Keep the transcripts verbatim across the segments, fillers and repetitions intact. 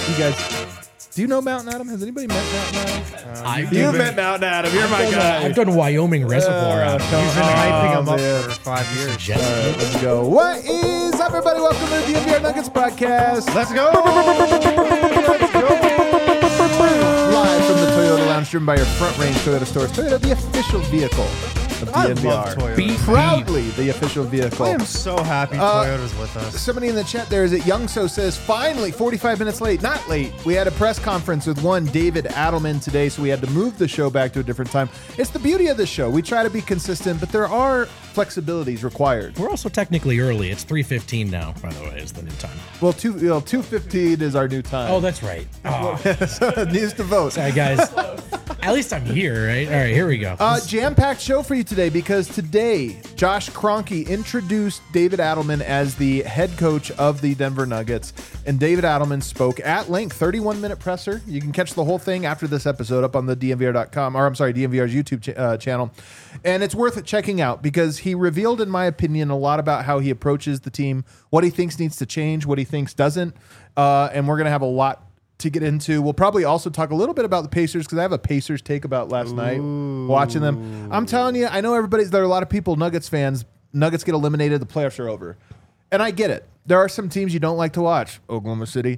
You guys, do you know Mountain Adam? Has anybody met Mountain Adam? Uh, I've You've been, met Mountain Adam. You're I've my done, guy. Uh, I've done Wyoming Reservoir Uh, Adam. come He's been on, hyping him up man. for five years. Just- All right, let's go. What is up, everybody? Welcome to the D N V R Nuggets podcast. Let's go. Live from the Toyota Lounge, driven by your Front Range Toyota stores. Toyota, the official vehicle of I D N V R. love Toyota. Beep. Proudly the official vehicle. I am so happy Uh, Toyota's with us. Somebody in the chat there is it Youngso says, finally, forty-five minutes late. Not late. We had a press conference with one David Adelman today, so we had to move the show back to a different time. It's the beauty of the show. We try to be consistent, but there are flexibilities required. We're also technically early. It's three fifteen now, by the way, is the new time. Well, two well, two fifteen is our new time. Oh, that's right. Oh, so it needs to vote. sorry, guys. At least I'm here, right? All right, here we go. Uh, jam-packed show for you today because today Josh Kroenke introduced David Adelman as the head coach of the Denver Nuggets, and David Adelman spoke at length, thirty-one minute presser. You can catch the whole thing after this episode up on the D N V R dot com, or I'm sorry, D N V R's YouTube ch- uh, channel, and it's worth checking out because he revealed, in my opinion, a lot about how he approaches the team, what he thinks needs to change, what he thinks doesn't, uh, and we're going to have a lot to get into. We'll probably also talk a little bit about the Pacers because I have a Pacers take about last Ooh. night watching them. I'm telling you, I know everybody's there are a lot of people, Nuggets fans. Nuggets get eliminated, the playoffs are over. And I get it. There are some teams you don't like to watch. Oklahoma City.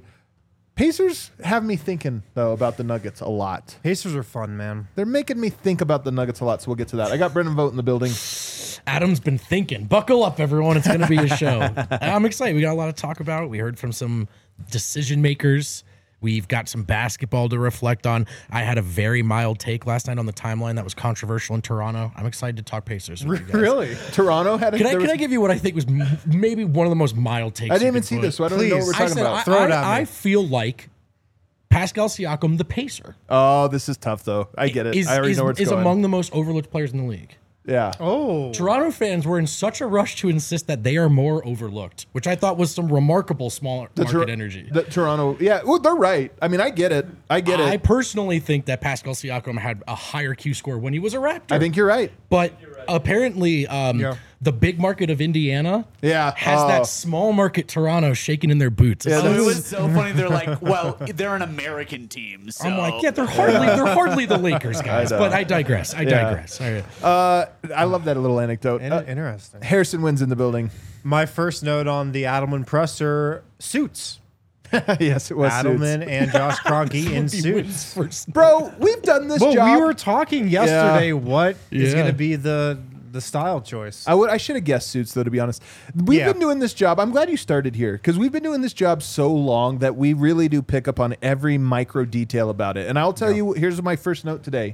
Pacers have me thinking, though, about the Nuggets a lot. Pacers are fun, man. They're making me think about the Nuggets a lot, so we'll get to that. I got Brendan Vogt in the building. Adam's been thinking. Buckle up, everyone. It's going to be a show. I'm excited. We got a lot to talk about. We heard from some decision makers. We've got some basketball to reflect on. I had a very mild take last night on the timeline that was controversial in Toronto. I'm excited to talk Pacers with you guys. Really? Toronto had a... Can I, there can was- I give you what I think was m- maybe one of the most mild takes? I didn't you even could see put? this, so I don't even know what we're Please. talking I said, about. I, Throw it I, at me. I feel like Pascal Siakam, the Pacer, Oh, this is tough, though. I get it. is, I already is, know where it's is going. among the most overlooked players in the league. yeah. Oh. Toronto fans were in such a rush to insist that they are more overlooked, which I thought was some remarkable small The market Tor- energy. The Toronto, yeah, well, they're right. I mean, I get it. I get I it. personally think that Pascal Siakam had a higher Q score when he was a Raptor. I think you're right. But apparently, um, Yeah. the big market of Indiana Yeah. has Oh. that small market Toronto shaking in their boots. Yeah, It's Oh, like- it was so funny. They're like, well, they're an American team. So. I'm like, yeah, they're hardly they're hardly the Lakers guys. know. But I digress. I Yeah. digress. All right. Uh, I love that little anecdote. In- Uh, interesting. Harrison wins in the building. My first note on the Adelman presser, suits. Yes, it was. Adelman Suits. and Josh Kroenke in He wins suits. first. Bro, we've done this Well, job. we were talking yesterday what is Yeah. going to be the the style choice. I would. I should have guessed Suits, though, to be honest. We've Yeah. been doing this job. I'm glad you started here because we've been doing this job so long that we really do pick up on every micro detail about it. And I'll tell you, here's my first note today.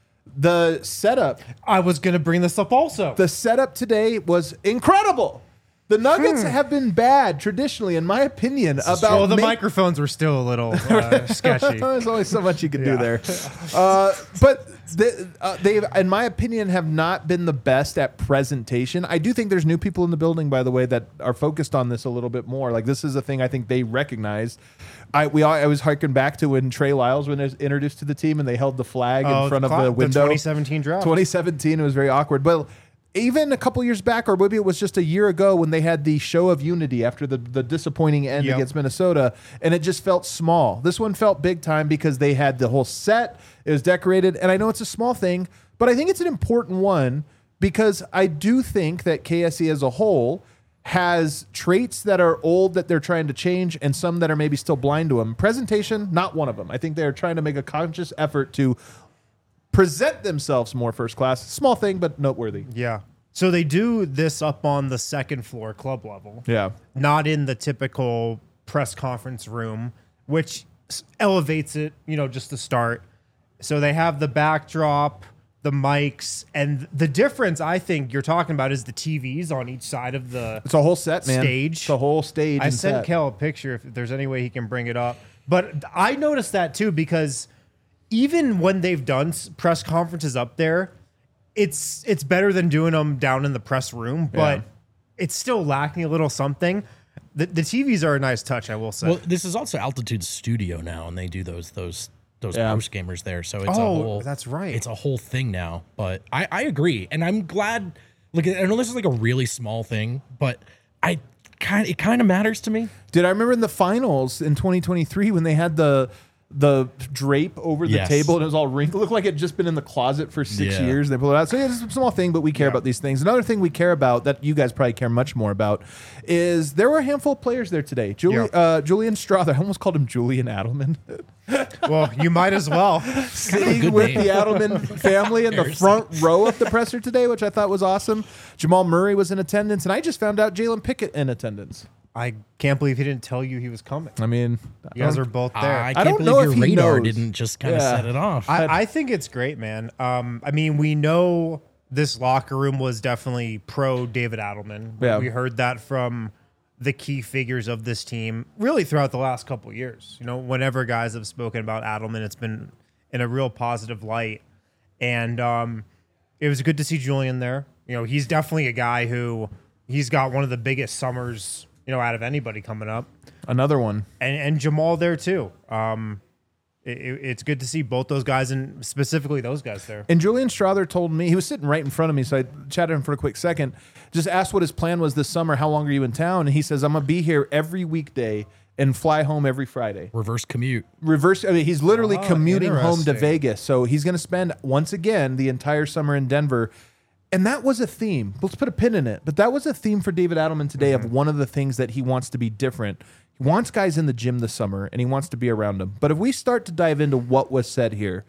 The setup, I was going to bring this up also. the setup today was incredible. The Nuggets Hmm. have been bad traditionally, in my opinion, about well, the make- microphones were still a little uh, sketchy. There's only so much you can do Yeah. there. Uh, but the, uh, they, in my opinion, have not been the best at presentation. I do think there's new people in the building, by the way, that are focused on this a little bit more. Like this is a thing I think they recognize. I we all, I was harking back to when Trey Lyles was introduced to the team and they held the flag Oh, in front of cla- the window. twenty seventeen draft. twenty seventeen, it was very awkward. But even a couple years back, or maybe it was just a year ago when they had the show of unity after the, the disappointing end Yep. against Minnesota, and it just felt small. This one felt big time because they had the whole set. It was decorated, and I know it's a small thing, but I think it's an important one because I do think that K S E as a whole has traits that are old that they're trying to change and some that are maybe still blind to them. Presentation, not one of them. I think they're trying to make a conscious effort to present themselves more first class. Small thing, but noteworthy. Yeah. So they do this up on the second floor club level. Yeah. Not in the typical press conference room, which s- elevates it, you know, just to start. So they have the backdrop, the mics, and the difference I think you're talking about is the T Vs on each side of the It's a whole set, man. Stage. It's a whole stage. I and sent set. Kel a picture if there's any way he can bring it up. But I noticed that too because even when they've done s- press conferences up there, it's it's better than doing them down in the press room, but Yeah. it's still lacking a little something. The, the T Vs are a nice touch, I will say. Well, this is also Altitude Studio now, and they do those those those Yeah. post gamers there. So it's a Oh, whole that's right. It's a whole thing now. But I, I agree, and I'm glad. Look, I know this is like a really small thing, but I kind it kind of matters to me. Did I remember in the finals in twenty twenty-three when they had the the drape over the Yes. table and it was all wrinkled? It looked like it had just been in the closet for six Yeah. years. And they pulled it out. So yeah, it's a small thing, but we care Yeah. about these things. Another thing we care about that you guys probably care much more about is there were a handful of players there today. Juli- Yeah. uh, Julian Strother, I almost called him Julian Adelman. Well, you might as well. Sitting good with name. the Adelman family in the Embarrassing. front row of the presser today, which I thought was awesome. Jamal Murray was in attendance, and I just found out Jalen Pickett in attendance. I can't believe he didn't tell you he was coming. I mean, You guys are both there. I I, can't don't believe know your if he radar knows. didn't just kind of Yeah. set it off. I, think it's great, man. Um, I mean, we know this locker room was definitely pro David Adelman. Yeah. We heard that from the key figures of this team really throughout the last couple of years. You know, whenever guys have spoken about Adelman, it's been in a real positive light. And um, it was good to see Julian there. You know, he's definitely a guy who he's got one of the biggest summers, you know, out of anybody coming up. another one. And, and Jamal there too. Um, it, it- it's good to see both those guys and specifically those guys there. And Julian Strother told me, he was sitting right in front of me, so I chatted him for a quick second, just asked what his plan was this summer, how long are you in town? And he says, I'm going to be here every weekday and fly home every Friday. Reverse commute. Reverse, I mean, he's literally Oh, commuting home to interesting. Vegas. So he's going to spend, once again, the entire summer in Denver. And that was a theme. Let's put a pin in it. But that was a theme for David Adelman today Mm-hmm. of one of the things that he wants to be different. He wants guys in the gym this summer, and he wants to be around them. But if we start to dive into what was said here,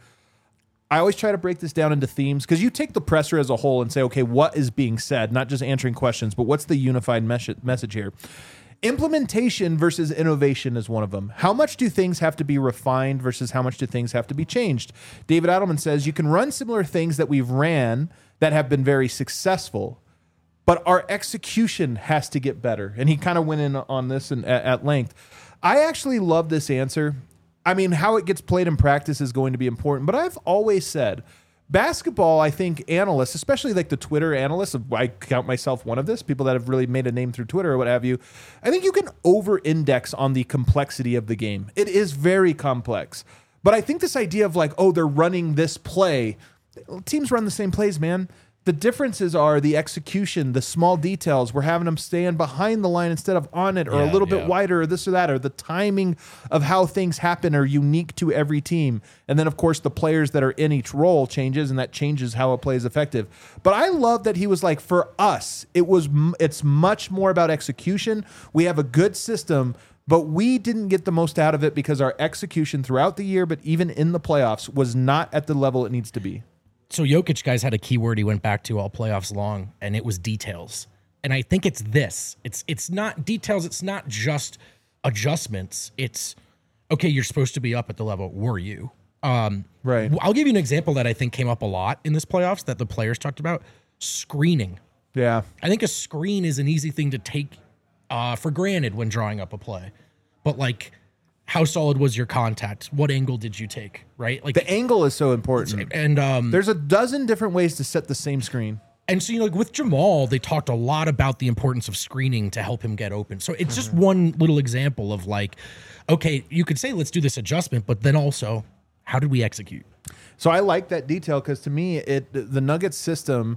I always try to break this down into themes because you take the presser as a whole and say, okay, what is being said? Not just answering questions, but what's the unified mes- message here? Implementation versus innovation is one of them. How much do things have to be refined versus how much do things have to be changed? David Adelman says you can run similar things that we've ran that have been very successful, but our execution has to get better. And he kind of went in on this in, at, at length. I actually love this answer. I mean, how it gets played in practice is going to be important, but I've always said basketball, I think analysts, especially like the Twitter analysts, I count myself one of this, people that have really made a name through Twitter or what have you, I think you can over-index on the complexity of the game. It is very complex. But I think this idea of like, oh, they're running this play, teams run the same plays, man. The differences are the execution, the small details. We're having them stand behind the line instead of on it, or Yeah, a little bit yeah. wider, or this or that, or the timing of how things happen are unique to every team. And then, of course, the players that are in each role changes, and that changes how a play is effective. But I love that he was like, for us, it was m- it's much more about execution. We have a good system, but we didn't get the most out of it because our execution throughout the year, but even in the playoffs, was not at the level it needs to be. So Jokic, guys, had a key word he went back to all playoffs long, and it was details. And I think it's this. It's it's not details. It's not just adjustments. It's, okay, you're supposed to be up at the level. Were you? Um, Right. I'll give you an example that I think came up a lot in this playoffs that the players talked about. Screening. Yeah. I think a screen is an easy thing to take uh, for granted when drawing up a play. But, like, how solid was your contact? What angle did you take, right? Like, The angle is so important. and um, There's a dozen different ways to set the same screen. And so, you know, like with Jamal, they talked a lot about the importance of screening to help him get open. So it's just one little example of like, okay, you could say, let's do this adjustment, but then also, how did we execute? So I like that detail because to me, it the Nuggets system,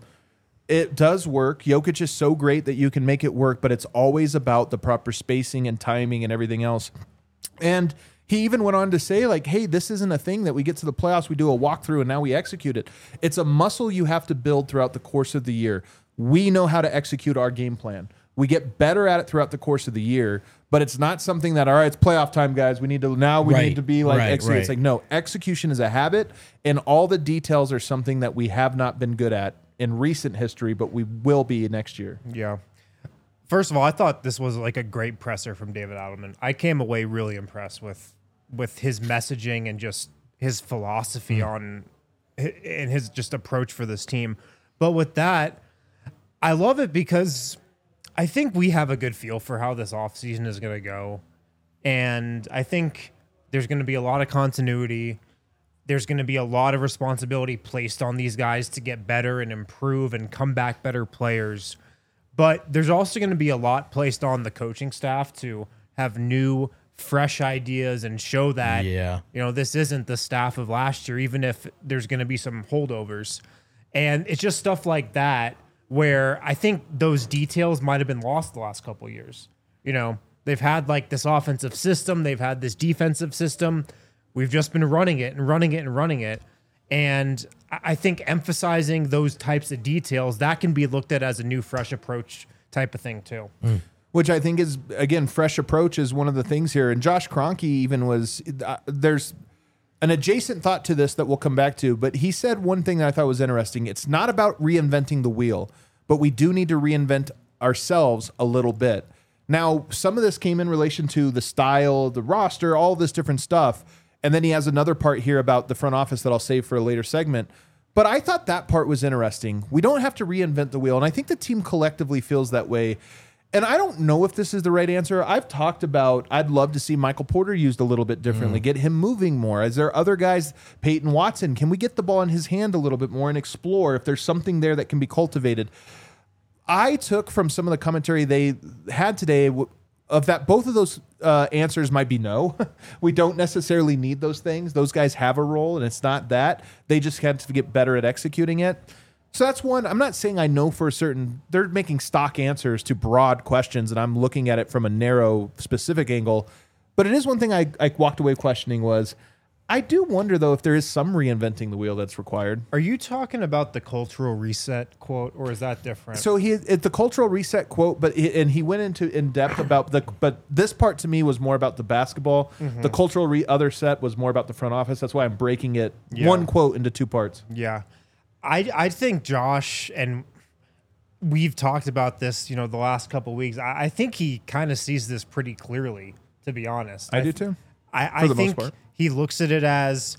it does work. Jokic is so great that you can make it work, but it's always about the proper spacing and timing and everything else. And he even went on to say, like, hey, this isn't a thing that we get to the playoffs, we do a walkthrough, and now we execute it. It's a muscle you have to build throughout the course of the year. We know how to execute our game plan. We get better at it throughout the course of the year, but it's not something that, all right, it's playoff time, guys. We need to, now we Right, need to be like, right, execute. It's right. like, no, execution is a habit, and all the details are something that we have not been good at in recent history, but we will be next year. Yeah. First of all, I thought this was like a great presser from David Adelman. I came away really impressed with with his messaging and just his philosophy Mm. on and his just approach for this team. But with that, I love it because I think we have a good feel for how this offseason is going to go. And I think there's going to be a lot of continuity. There's going to be a lot of responsibility placed on these guys to get better and improve and come back better players. But there's also going to be a lot placed on the coaching staff to have new, fresh ideas and show that, Yeah. you know, this isn't the staff of last year, even if there's going to be some holdovers. And it's just stuff like that where I think those details might have been lost the last couple of years. You know, they've had like this offensive system, they've had this defensive system. We've just been running it and running it and running it. And I think emphasizing those types of details, that can be looked at as a new, fresh approach type of thing too. Mm. Which I think is, again, fresh approach is one of the things here. And Josh Kroenke even was, uh, there's an adjacent thought to this that we'll come back to, but he said one thing that I thought was interesting. It's not about reinventing the wheel, but we do need to reinvent ourselves a little bit. Now, some of this came in relation to the style, the roster, all this different stuff. And then he has another part here about the front office that I'll save for a later segment. But I thought that part was interesting. We don't have to reinvent the wheel. And I think the team collectively feels that way. And I don't know if this is the right answer. I've talked about, I'd love to see Michael Porter used a little bit differently, mm. get him moving more. Is there other guys, Peyton Watson, can we get the ball in his hand a little bit more and explore if there's something there that can be cultivated? I took from some of the commentary they had today of that both of those uh, answers might be no. We don't necessarily need those things. Those guys have a role, and it's not that. They just have to get better at executing it. So that's one. I'm not saying I know for certain. They're making stock answers to broad questions, and I'm looking at it from a narrow, specific angle. But it is one thing I, I walked away questioning was, I do wonder, though, if there is some reinventing the wheel that's required. Are you talking about the cultural reset quote, or is that different? So he, it's the cultural reset quote, but he, and he went into in depth about the. But this part to me was more about the basketball. Mm-hmm. The cultural re, other set was more about the front office. That's why I'm breaking it yeah. one quote into two parts. Yeah. I, I think Josh, and we've talked about this, you know, the last couple of weeks. I, I think he kind of sees this pretty clearly, to be honest. I, I do too. I, I think he looks at it as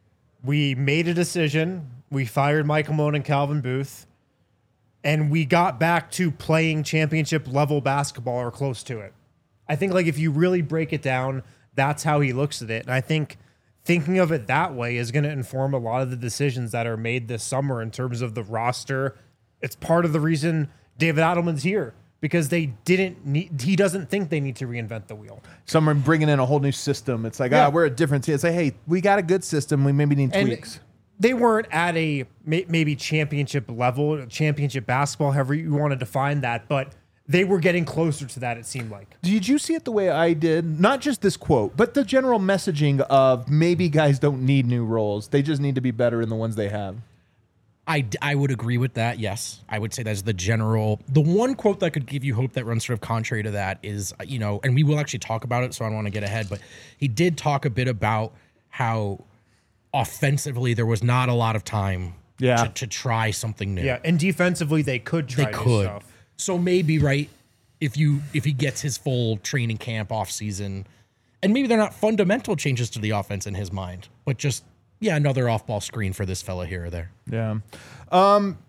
we made a decision. We fired Michael Malone and Calvin Booth, and we got back to playing championship level basketball or close to it. I think, like, if you really break it down, that's how he looks at it. And I think thinking of it that way is going to inform a lot of the decisions that are made this summer in terms of the roster. It's part of the reason David Adelman's here, because they didn't need, he doesn't think they need to reinvent the wheel. Some are bringing in a whole new system. It's like, yeah. ah, we're a different team. It's like, hey, we got a good system. We maybe need and tweaks. They weren't at a maybe championship level, championship basketball, however you want to define that, but they were getting closer to that, it seemed like. Did you see it the way I did? Not just this quote, but the general messaging of maybe guys don't need new roles. They just need to be better in the ones they have. I, I would agree with that, yes. I would say that's the general. The one quote that could give you hope that runs sort of contrary to that is, you know, and we will actually talk about it, so I don't want to get ahead, but he did talk a bit about how offensively there was not a lot of time yeah. to, to try something new. Yeah, and defensively they could try they new could. stuff. So maybe, right, if you if he gets his full training camp off season, and maybe they're not fundamental changes to the offense in his mind, but just, yeah, another off-ball screen for this fella here or there. Yeah. Um,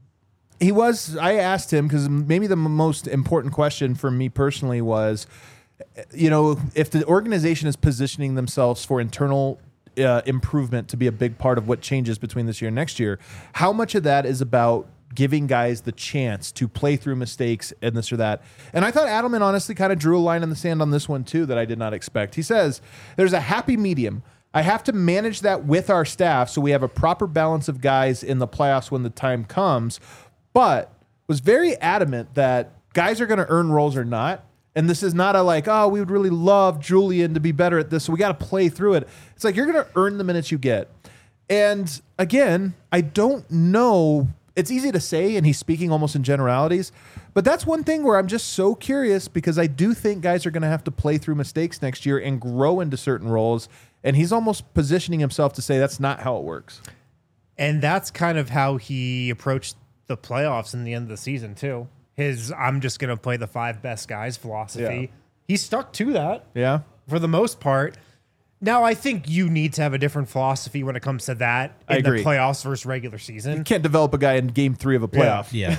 he was, I asked him, because maybe the most important question for me personally was, you know, if the organization is positioning themselves for internal uh, improvement to be a big part of what changes between this year and next year, how much of that is about giving guys the chance to play through mistakes and this or that? And I thought Adelman honestly kind of drew a line in the sand on this one too that I did not expect. He says, there's a happy medium. I have to manage that with our staff so we have a proper balance of guys in the playoffs when the time comes, but was very adamant that guys are going to earn roles or not. And this is not a like, oh, we would really love Julian to be better at this, so we got to play through it. It's like, you're going to earn the minutes you get. And again, I don't know. It's easy to say, and he's speaking almost in generalities, but that's one thing where I'm just so curious, because I do think guys are going to have to play through mistakes next year and grow into certain roles. And he's almost positioning himself to say that's not how it works. And that's kind of how he approached the playoffs in the end of the season, too. His I'm just going to play the five best guys philosophy. Yeah. He stuck to that. Yeah. For the most part. Now, I think you need to have a different philosophy when it comes to that in I agree. the playoffs versus regular season. You can't develop a guy in game three of a playoff. Yeah.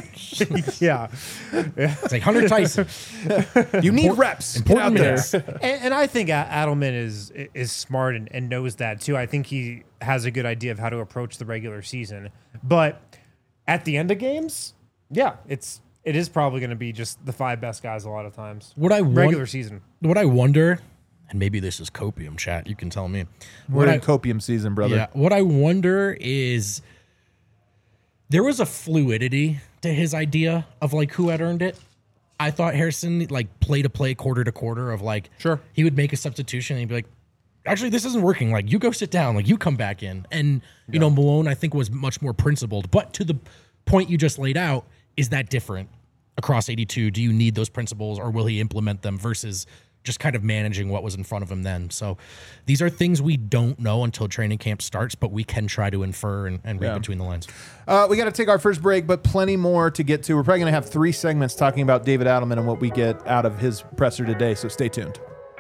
yeah. It's like Hunter Tyson. You need reps. Important Get out minutes. there. And, and I think Adelman is is smart and, and knows that, too. I think he has a good idea of how to approach the regular season. But at the end of games, yeah, it's it is probably going to be just the five best guys a lot of times. What I regular won- season. What I wonder, and maybe this is copium chat, you can tell me. We're What in I- copium season, brother. Yeah. What I wonder is there was a fluidity to his idea of like who had earned it. I thought Harrison like play to play, quarter to quarter of like, Sure. he would make a substitution and he'd be like, actually, this isn't working. Like, you go sit down. Like, you come back in. And, you yeah. know, Malone, I think, was much more principled. But to the point you just laid out, is that different across eighty-two? Do you need those principles, or will he implement them versus just kind of managing what was in front of him then? So these are things we don't know until training camp starts, but we can try to infer and, and read yeah. between the lines. Uh, we got to take our first break, but plenty more to get to. We're probably going to have three segments talking about David Adelman and what we get out of his presser today, so stay tuned.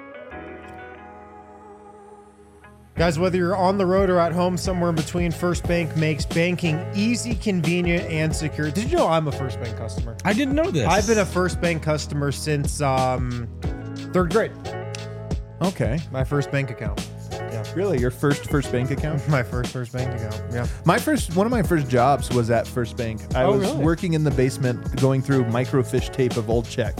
Guys, whether you're on the road or at home, somewhere in between, First Bank makes banking easy, convenient, and secure. Did you know I'm a First Bank customer? I didn't know this. I've been a First Bank customer since um, third grade. Okay. My first bank account. Yeah. Really? Your first First Bank account? My first First Bank account, yeah. My first, one of my first jobs was at First Bank. I oh, was really? working in the basement going through microfiche tape of old checks.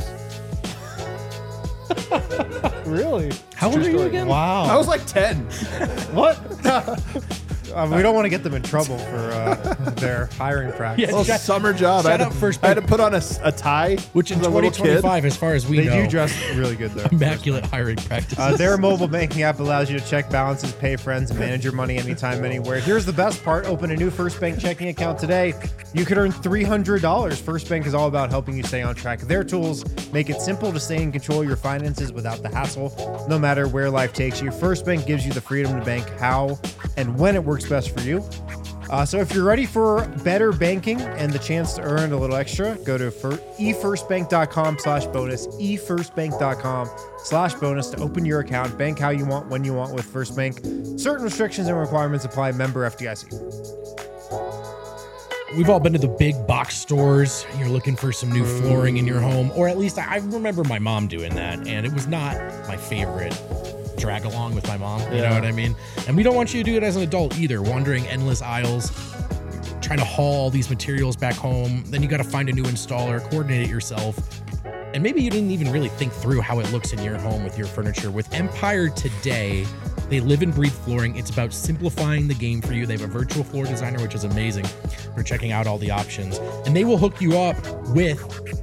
Really? How old are you again? Wow. I was like ten. What? uh, we don't want to get them in trouble for uh, their hiring practice. Yeah, Well, shout- summer job. I shout had, out to, First I had to Bank. put on a, s- a tie. Which in as a little twenty kid. twenty-five, as far as we They know, do dress really good there. immaculate hiring practices. Uh, their mobile banking app allows you to check balances, pay friends, and manage your money anytime, anywhere. Here's the best part. Open a new First Bank checking account today. You could earn three hundred dollars. First Bank is all about helping you stay on track. Their tools make it simple to stay in control of your finances without the hassle, no matter where life takes you. First Bank gives you the freedom to bank how and when it works best for you. Uh, so if you're ready for better banking and the chance to earn a little extra, go to e first bank dot com slash bonus, e first bank dot com slash bonus to open your account. Bank how you want, when you want with First Bank. Certain restrictions and requirements apply. Member F D I C. We've all been to the big box stores. You're looking for some new flooring in your home, or at least I I remember my mom doing that, and it was not my favorite drag along with my mom. You Yeah. know what I mean? And we don't want you to do it as an adult either, wandering endless aisles, trying to haul all these materials back home. Then you got to find a new installer, coordinate it yourself. And maybe you didn't even really think through how it looks in your home with your furniture. With Empire Today, they live and breathe flooring. It's about simplifying the game for you. They have a virtual floor designer, which is amazing for checking out all the options. And they will hook you up with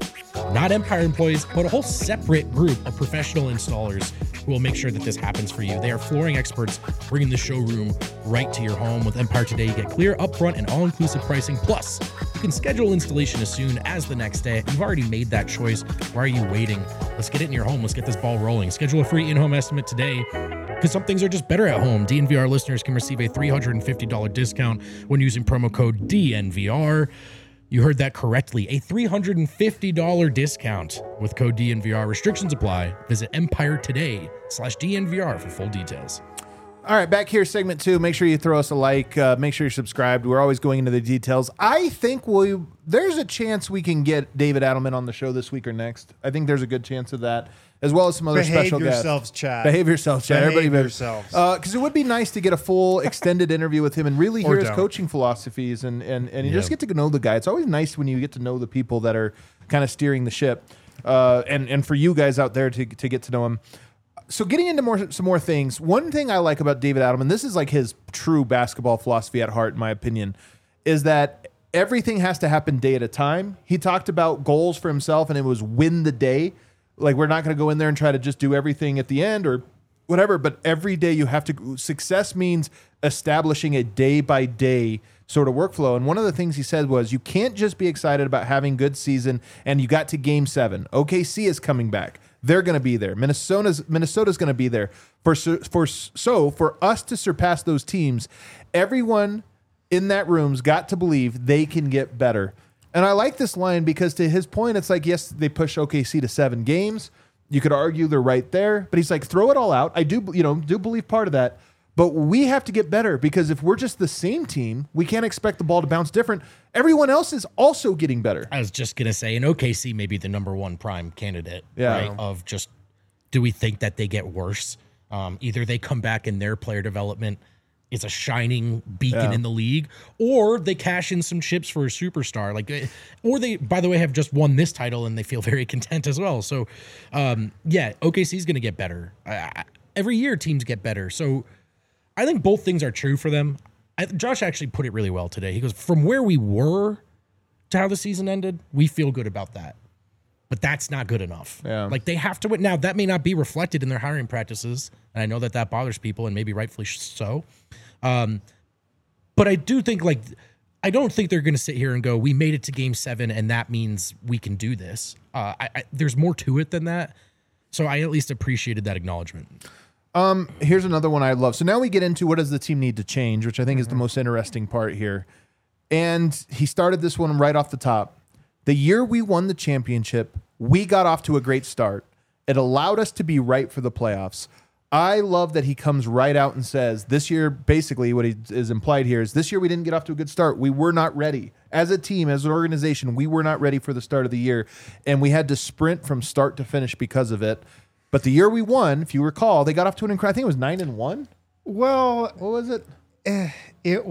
not Empire employees, but a whole separate group of professional installers who will make sure that this happens for you. They are flooring experts, bringing the showroom right to your home. With Empire Today, you get clear, upfront, and all-inclusive pricing. Plus, you can schedule installation as soon as the next day. You've already made that choice. Why are you waiting? Let's get it in your home. Let's get this ball rolling. Schedule a free in-home estimate today, because some things are just better at home. D N V R listeners can receive a three hundred fifty dollars discount when using promo code D N V R. You heard that correctly. A three hundred fifty dollars discount with code D N V R. Restrictions apply. Visit Empire Today slash D N V R for full details. All right, back here, segment two. Make sure you throw us a like. Uh, make sure you're subscribed. We're always going into the details. I think we there's a chance we can get David Adelman on the show this week or next. I think there's a good chance of that, as well as some other Behave special yourselves, guests. chat. Behave yourselves, chat. Behave Everybody behaves. yourselves. Because uh, it would be nice to get a full extended interview with him and really Or hear his don't. coaching philosophies and and, and you Yeah. just get to know the guy. It's always nice when you get to know the people that are kind of steering the ship, uh, and and for you guys out there to to get to know him. So getting into more some more things, one thing I like about David Adelman, this is like his true basketball philosophy at heart, in my opinion, is that everything has to happen day at a time. He talked about goals for himself, and it was win the day. Like, we're not going to go in there and try to just do everything at the end or whatever, but every day you have to. Success means establishing a day by day sort of workflow. And one of the things he said was, you can't just be excited about having good season and you got to game seven. O K C is coming back. They're going to be there. Minnesota's Minnesota's going to be there. For for so for us to surpass those teams, everyone in that room's got to believe they can get better. And I like this line because, to his point, it's like, yes, they push O K C to seven games. You could argue they're right there, but he's like, throw it all out. I do, you know, do believe part of that. But we have to get better, because if we're just the same team, we can't expect the ball to bounce different. Everyone else is also getting better. I was just going to say, in O K C may be the number one prime candidate, Yeah. right? Of just, do we think that they get worse? Um, either they come back in their player development is a shining beacon Yeah. in the league, or they cash in some chips for a superstar. Like, uh, or they, by the way, have just won this title and they feel very content as well. So, um, yeah, O K C is going to get better. Uh, every year teams get better. So I think both things are true for them. I, Josh actually put it really well today. He goes, from where we were to how the season ended, we feel good about that. but that's not good enough. Yeah. Like they have to win. Now that may not be reflected in their hiring practices, and I know that that bothers people, and maybe rightfully so. Um, but I do think like I don't think they're going to sit here and go, "We made it to Game Seven, and that means we can do this." Uh, I, I, there's more to it than that. So I at least appreciated that acknowledgement. Um, here's another one I love. So now we get into what does the team need to change, which I think mm-hmm. is the most interesting part here. And he started this one right off the top. The year we won the championship, we got off to a great start. It allowed us to be right for the playoffs. I love that he comes right out and says this year, basically what he is implied here is this year we didn't get off to a good start. We were not ready. As a team, as an organization, we were not ready for the start of the year. And we had to sprint from start to finish because of it. But the year we won, if you recall, they got off to an incredible, I think it was nine and one. Well, what was it? Eh, it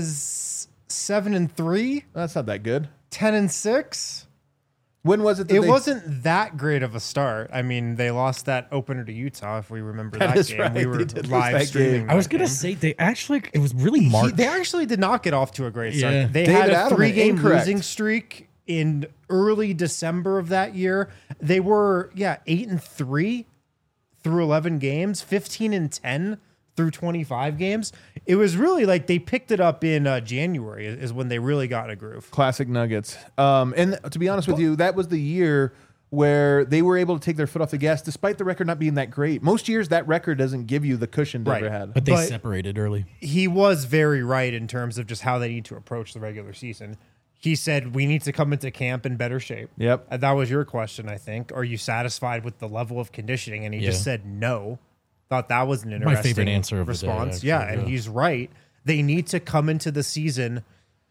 was seven and three. That's not that good. Ten and six. When was it? That it they... wasn't that great of a start. I mean, they lost that opener to Utah. If we remember that, that is game, right. we were live streaming. I was going to say they actually it was really March. He, they actually did not get off to a great start. Yeah. They David had a Adelman, three-game incorrect. losing streak in early December of that year. They were yeah eight and three through eleven games, fifteen and ten through twenty-five games. It was really like they picked it up in uh, January is when they really got in a groove. Classic Nuggets. Um, and to be honest with you, that was the year where they were able to take their foot off the gas despite the record not being that great. Most years that record doesn't give you the cushion Denver Right. had. But they But- separated early. He was very right in terms of just how they need to approach the regular season. He said, we need to come into camp in better shape. Yep. And that was your question, I think. Are you satisfied with the level of conditioning? And he just Yeah. said no. Thought that was an My interesting favorite answer of the day, response. actually, yeah, and yeah. he's right. They need to come into the season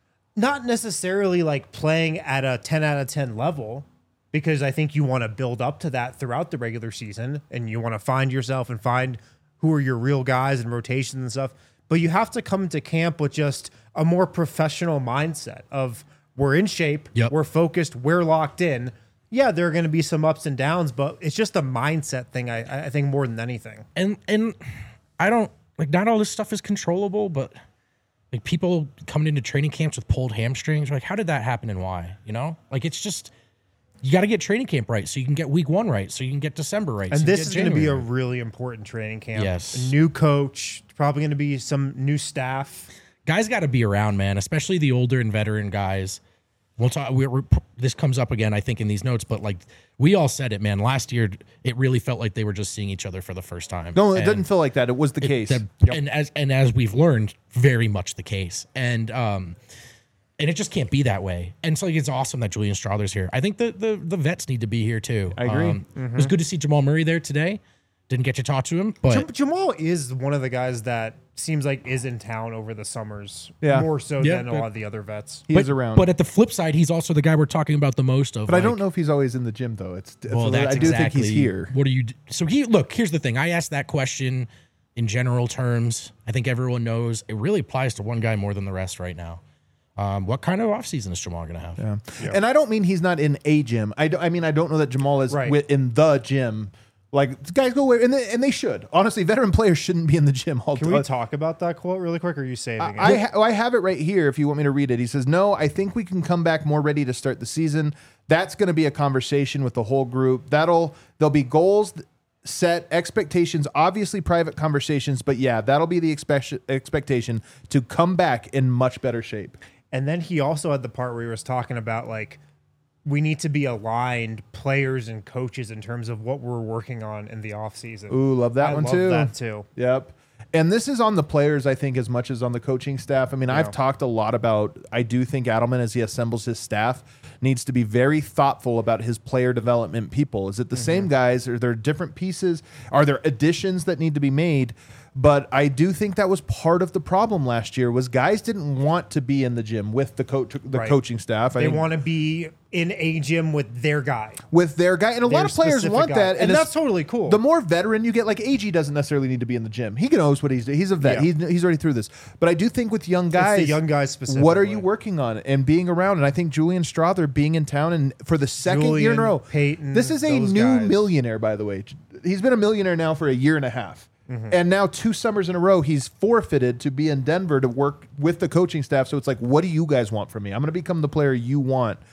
not necessarily like playing at a ten out of ten level, because I think you want to build up to that throughout the regular season and you want to find yourself and find who are your real guys and rotations and stuff. But you have to come into camp with just a more professional mindset of we're in shape, Yep. we're focused, we're locked in. Yeah, there are going to be some ups and downs, but it's just a mindset thing, I, I think, more than anything. And and I don't like not all this stuff is controllable, but like people coming into training camps with pulled hamstrings, like how did that happen and why? You know, like it's just you got to get training camp right so you can get week one right, so you can get December right. And so you this get is going to be a January right. really important training camp. Yes. A new coach, probably going to be some new staff. Guys got to be around, man, especially the older and veteran guys. We'll talk. We're, we're, this comes up again, I think, in these notes, but like we all said it, man. Last year, it really felt like they were just seeing each other for the first time. No, it And didn't feel like that. It was the it- case. the- And as and as we've learned, very much the case. And um, and it just can't be that way. And so like, it's awesome that Julian Strother's here. I think the the the vets need to be here too. I agree. Um, It was good to see Jamal Murray there today. Didn't get to talk to him, but Jam- Jamal is one of the guys that seems like is in town over the summers, Yeah. more so Yeah, than a but- lot of the other vets. he but, is around. But at the flip side, he's also the guy we're talking about the most of. But I like, don't know if he's always in the gym, though. It's, it's Well, that's I do exactly, think he's here. What do you? d- So he look. Here's the thing. I asked that question in general terms. I think everyone knows it really applies to one guy more than the rest right now. Um, what kind of offseason is Jamal going to have? Yeah. And I don't mean he's not in a gym. I, do, I mean, I don't know that Jamal is Right. wi- in the gym. Like, guys go away, and they, and they should. Honestly, veteran players shouldn't be in the gym all Can day. we talk about that quote really quick, or are you saving it? I, ha- oh, I have it right here if you want me to read it. He says, no, I think we can come back more ready to start the season. That's going to be a conversation with the whole group. That'll There'll be goals set, expectations, obviously private conversations, but yeah, that'll be the expect- expectation to come back in much better shape. And then he also had the part where he was talking about like we need to be aligned, players and coaches, in terms of what we're working on in the offseason. Ooh, love that I one love too. that too. Yep. And this is on the players, I think, as much as on the coaching staff. I mean, I've talked a lot about, I do think Adelman, as he assembles his staff, needs to be very thoughtful about his player development people. Is it the same guys? Are there different pieces? Are there additions that need to be made? But I do think that was part of the problem last year was guys didn't want to be in the gym with the coach, the Right. coaching staff. I They mean, want to be in a gym with their guy. with their guy, and a lot Their of players specific want guy. that, and it's- that's totally cool. The more veteran you get, like A G doesn't necessarily need to be in the gym. He knows what he's doing. He's a vet. Yeah. He's, he's already through this. But I do think with young guys, the young guys specifically. what are you working on and being around? And I think Julian Strother being in town and for the second year in a Julian, row, Peyton, this is a those new guys. millionaire, by the way. He's been a millionaire now for a year and a half. Mm-hmm. And now two summers in a row, he's forfeited to be in Denver to work with the coaching staff. So it's like, what do you guys want from me? I'm going to become the player you want.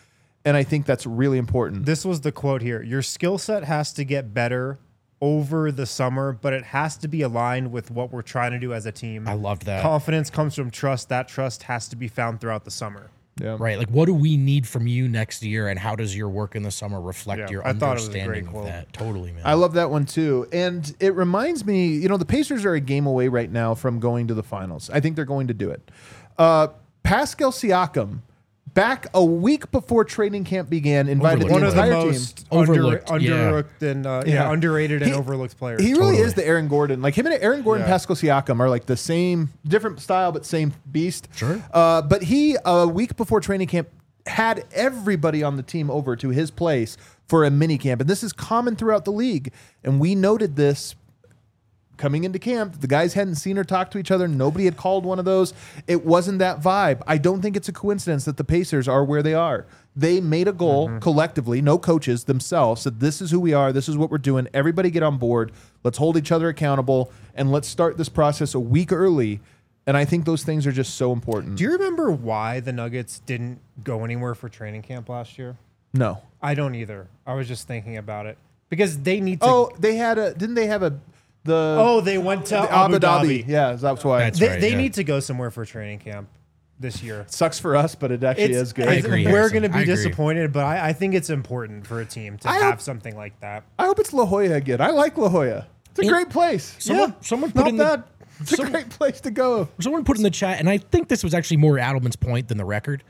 And I think that's really important. This was the quote here. Your skill set has to get better over the summer, but it has to be aligned with what we're trying to do as a team. I loved that. Confidence comes from trust. That trust has to be found throughout the summer. Yeah. Right. Like, what do we need from you next year, and how does your work in the summer reflect Yeah, your I thought it was a understanding great of quote. that? Totally, man. I love that one too. And it reminds me, you know, the Pacers are a game away right now from going to the finals. I think they're going to do it. Uh, Pascal Siakam, back a week before training camp began, invited Overlooked. One the of the entire most team. under, Overlooked, yeah. underlooked and uh, yeah. Yeah. underrated and He- overlooked players. He really Totally. is the Aaron Gordon. Like him and Aaron Gordon, Yeah. Pascal Siakam are like the same, different style, but same beast. Sure. Uh, but he, a week before training camp, had everybody on the team over to his place for a mini camp. And this is common throughout the league. And we noted this coming into camp. The guys hadn't seen or talked to each other. Nobody had called one of those. It wasn't that vibe. I don't think it's a coincidence that the Pacers are where they are. They made a goal collectively, no coaches themselves, said this is who we are, this is what we're doing. Everybody get on board. Let's hold each other accountable, and let's start this process a week early. And I think those things are just so important. Do you remember why the Nuggets didn't go anywhere for training camp last year? No. I don't either. I was just thinking about it because they need to. Oh, they had a, didn't they have a, the, oh, they went to the Abu Dhabi. Yeah, that's why. That's They, right, they yeah. need to go somewhere for training camp this year. Sucks for us, but it actually It's- is good. I it's- agree, We're Harrison. going to I be agree. disappointed, but I, I think it's important for a team to I have hope- something like that. I hope it's La Jolla again. I like La Jolla. It's a In- great place. Someone- yeah, someone put not in the- bad. It's a some- great place to go. Someone put in the chat, and I think this was actually more Adelman's point than the record.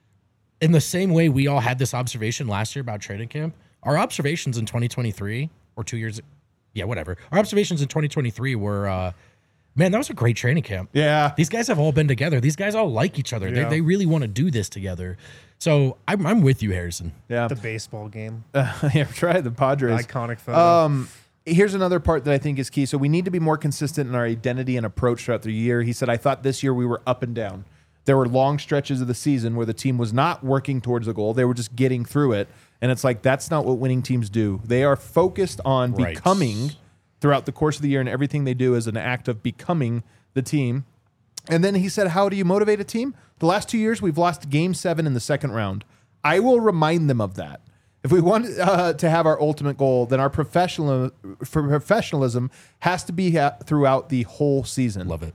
In the same way we all had this observation last year about training camp, our observations in twenty twenty-three or two years, yeah, whatever. Our observations in twenty twenty-three were, uh, man, that was a great training camp. Yeah. These guys have all been together. These guys all like each other. Yeah. They, they really want to do this together. So I'm, I'm with you, Harrison. Yeah. The baseball game. yeah, try the Padres. Iconic photo. Um, here's another part that I think is key. So we need to be more consistent in our identity and approach throughout the year. He said, I thought this year we were up and down. There were long stretches of the season where the team was not working towards the goal. They were just getting through it. And it's like, that's not what winning teams do. They are focused on Right. becoming throughout the course of the year, and everything they do is an act of becoming the team. And then he said, how do you motivate a team? The last two years, we've lost game seven in the second round. I will remind them of that. If we want uh, to have our ultimate goal, then our professional for professionalism has to be ha- throughout the whole season. Love it.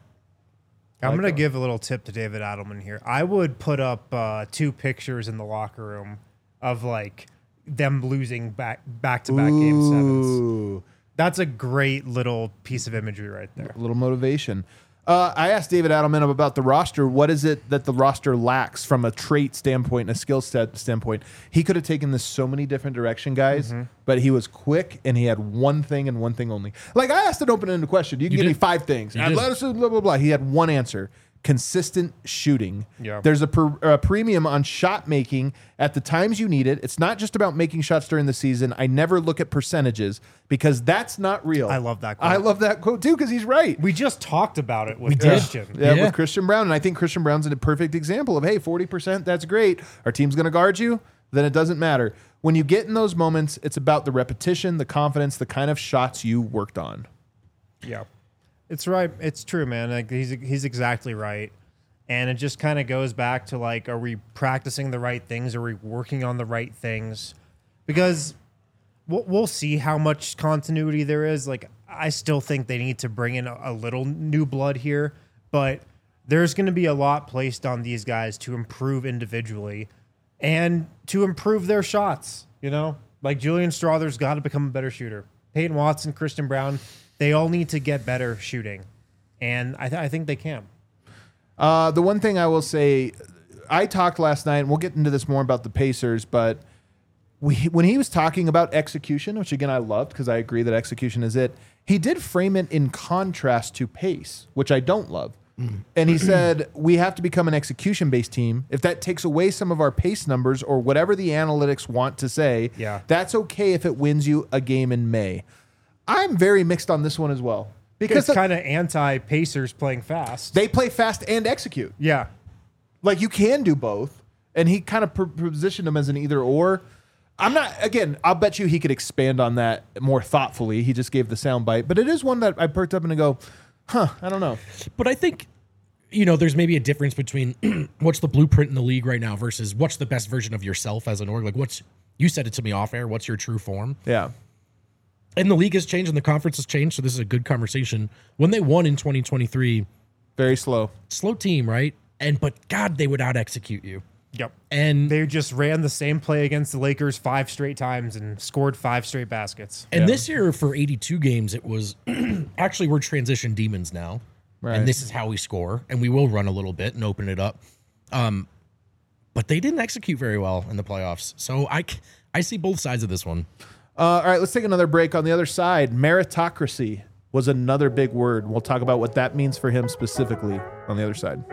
I'm going to give a little tip to David Adelman here. I would put up uh, two pictures in the locker room of like them losing back back to back game sevens. Ooh, That's a great little piece of imagery right there. a little motivation. Uh, I asked David Adelman about the roster. What is it that the roster lacks from a trait standpoint and a skill set standpoint? He could have taken this so many different direction, guys, Mm-hmm. but he was quick and he had one thing and one thing only. Like I asked an open-ended question. You can You give me did. five things. You And did. let us blah blah blah. He had one answer. Consistent shooting. Yeah. There's a, per, a premium on shot making at the times you need it. It's not just about making shots during the season. I never look at percentages because that's not real. I love that quote. I love that quote too because he's right. We just talked about it with We did. Christian. Yeah, Yeah. with Christian Brown. And I think Christian Brown's a perfect example of, hey, forty percent, that's great. Our team's going to guard you. Then it doesn't matter. When you get in those moments, it's about the repetition, the confidence, the kind of shots you worked on. Yeah, it's right. It's true, man. Like he's he's exactly right, and it just kind of goes back to like, are we practicing the right things? Are we working on the right things? Because we'll, we'll see how much continuity there is. Like I still think they need to bring in a, a little new blood here, but there's going to be a lot placed on these guys to improve individually and to improve their shots. You know, like Julian Strother's got to become a better shooter. Peyton Watson, Christian Brown, they all need to get better shooting, and I, th- I think they can. Uh, the one thing I will say, I talked last night, and we'll get into this more about the Pacers, but we, when he was talking about execution, which again I loved because I agree that execution is it, he did frame it in contrast to pace, which I don't love. And he said, we have to become an execution-based team. If that takes away some of our pace numbers or whatever the analytics want to say, Yeah. that's okay if it wins you a game in May. I'm very mixed on this one as well. Because It's kind of anti-Pacers playing fast. they play fast and execute. yeah. Like you can do both. And he kind of pr- positioned him as an either or. I'm not, again, I'll bet you he could expand on that more thoughtfully. He just gave the soundbite. But it is one that I perked up and I go, huh, I don't know. But I think you know, there's maybe a difference between what's the blueprint in the league right now versus what's the best version of yourself as an org. Like, what's, you said it to me off air, what's your true form? Yeah. And the league has changed and the conference has changed, so this is a good conversation. When they won in twenty twenty-three, very slow. Slow team, right? And but God, they would out execute you. Yep. And they just ran the same play against the Lakers five straight times and scored five straight baskets. And Yeah. this year for eighty-two games, it was actually we're transition demons now. Right. And this is how we score. And we will run a little bit and open it up. Um, but they didn't execute very well in the playoffs. So I, c- I see both sides of this one. Uh, all right, let's take another break. On the other side, meritocracy was another big word. We'll talk about what that means for him specifically on the other side.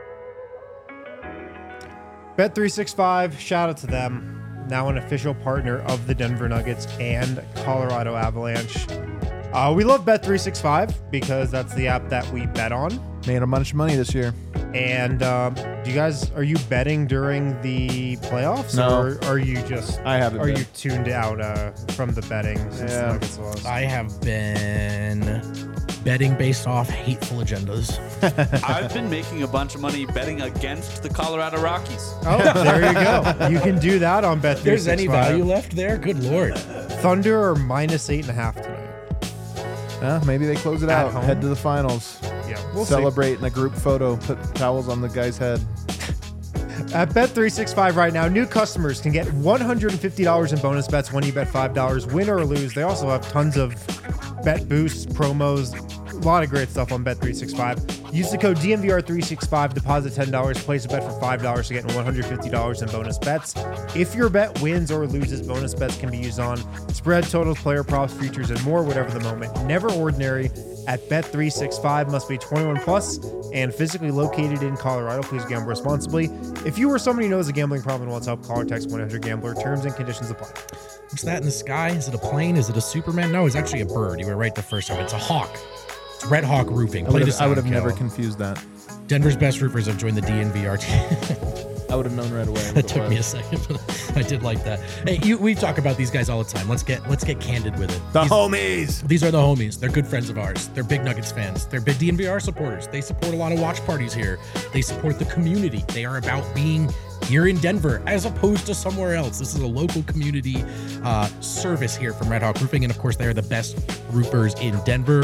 Bet three sixty-five, shout out to them. Now an official partner of the Denver Nuggets and Colorado Avalanche. Uh, we love Bet three sixty-five because that's the app that we bet on. Made a bunch of money this year. And um, do you guys, are you betting during the playoffs? No. Or are you just, I haven't are been. you tuned out uh, from the betting since Yeah. the Nuggets lost? I have been betting based off hateful agendas. I've been making a bunch of money betting against the Colorado Rockies. Oh, there you go. You can do that on Bet If three there's any sixty-five. value left there, good Lord. Thunder are minus eight and a half tonight. Uh, maybe they close it At out, home? head to the finals, Yeah, we'll see. celebrate in a group photo, put towels on the guy's head. At Bet three sixty-five right now, new customers can get one hundred fifty dollars in bonus bets when you bet five dollars, win or lose. They also have tons of bet boosts, promos, a lot of great stuff on Bet three sixty-five. Use the code D N V R three sixty-five, deposit ten dollars, place a bet for five dollars to get one hundred fifty dollars in bonus bets. If your bet wins or loses, bonus bets can be used on spread, totals, player props, futures, and more, whatever the moment. Never ordinary. At Bet three sixty-five, must be twenty-one plus and physically located in Colorado. Please gamble responsibly. If you or somebody knows a gambling problem and wants help, call or text one hundred gambler. Terms and conditions apply. What's that in the sky? Is it a plane? Is it a Superman? No, it's actually a bird. You were right the first time. It's a hawk. It's Red Hawk Roofing. I Play would the have, I would sound, have never Cal. confused that. Denver's best roofers have joined the D N V R team. I would have known right away. That took me a second, but I did like that. Hey, you, we talk about these guys all the time. Let's get let's get candid with it. The these, homies. these are the homies. They're good friends of ours. They're big Nuggets fans. They're big D N V R supporters. They support a lot of watch parties here. They support the community. They are about being here in Denver as opposed to somewhere else. This is a local community uh, service here from Red Hawk Roofing, and of course, they are the best roofers in Denver.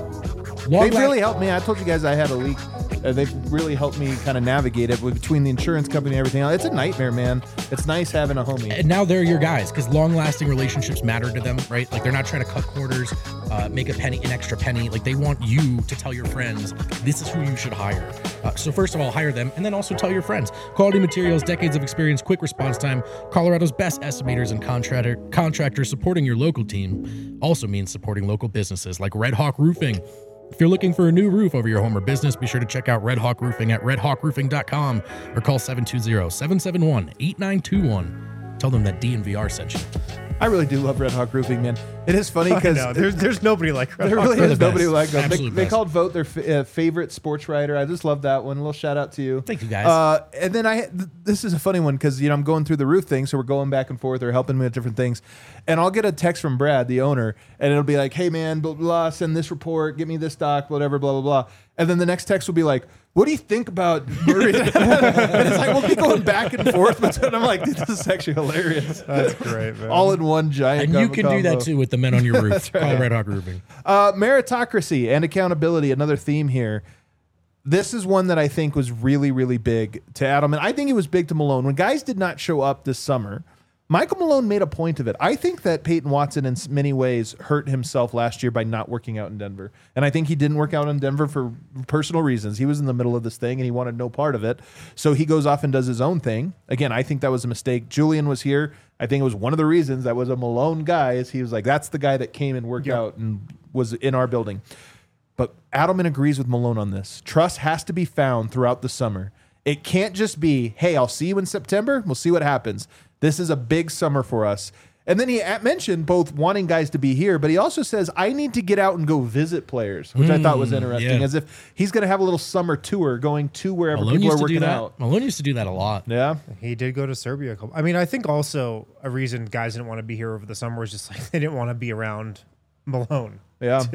Long They la- really helped me. I told you guys I had a leak. Uh, they've really helped me kind of navigate it with, between the insurance company and everything else. It's a nightmare, man. It's nice having a homie. And now they're your guys because long-lasting relationships matter to them, right? Like they're not trying to cut corners, uh, make a penny, an extra penny. Like they want you to tell your friends this is who you should hire. Uh, so first of all, hire them, and then also tell your friends. Quality materials, decades of experience, quick response time. Colorado's best estimators and contractor contractors supporting your local team also means supporting local businesses like Red Hawk Roofing. If you're looking for a new roof over your home or business, be sure to check out Red Hawk Roofing at red hawk roofing dot com or call seven two zero, seven seven one, eight nine two one. Tell them that D N V R sent you. I really do love Red Hawk Roofing, man. It is funny because No, there's, there's nobody like Red there Hawk. really They're is the nobody best. like them. They, Absolute they best. called Vote their f- uh, favorite sports writer. I just love that one. A little shout out to you. Thank you, guys. Uh, and then I, th- this is a funny one because you know I'm going through the roof thing, so we're going back and forth. They're helping me with different things, and I'll get a text from Brad, the owner, and it'll be like, "Hey man, blah blah, send this report, get me this doc, whatever, blah blah blah." And then the next text will be like, "What do you think about?" Murray?" And it's like we'll be going back and forth, but I'm like, "Dude, "This is actually hilarious." That's great, man. All in one giant. and you com- can do that combo. too with the men on your roof. Call Red Hawk Roofing. Uh, meritocracy and accountability, another theme here. This is one that I think was really, really big to Adelman. I think it was big to Malone. When guys did not show up this summer, Michael Malone made a point of it. I think that Peyton Watson in s- many ways hurt himself last year by not working out in Denver. And I think he didn't work out in Denver for personal reasons. He was in the middle of this thing and he wanted no part of it. So he goes off and does his own thing. Again, I think that was a mistake. Julian was here. I think it was one of the reasons that was a Malone guy is he was like, that's the guy that came and worked Yep. out and was in our building. But Adelman agrees with Malone on this. Trust has to be found throughout the summer. It can't just be, hey, I'll see you in September. We'll see what happens. This is a big summer for us. And then he at- mentioned both wanting guys to be here, but he also says, I need to get out and go visit players, which I thought was interesting, yeah. as if he's going to have a little summer tour going to wherever Malone people used are to do working that. out. Malone used to do that a lot. Yeah. He did go to Serbia. a couple- I mean, I think also a reason guys didn't want to be here over the summer was just like they didn't want to be around Malone. Yeah. Too.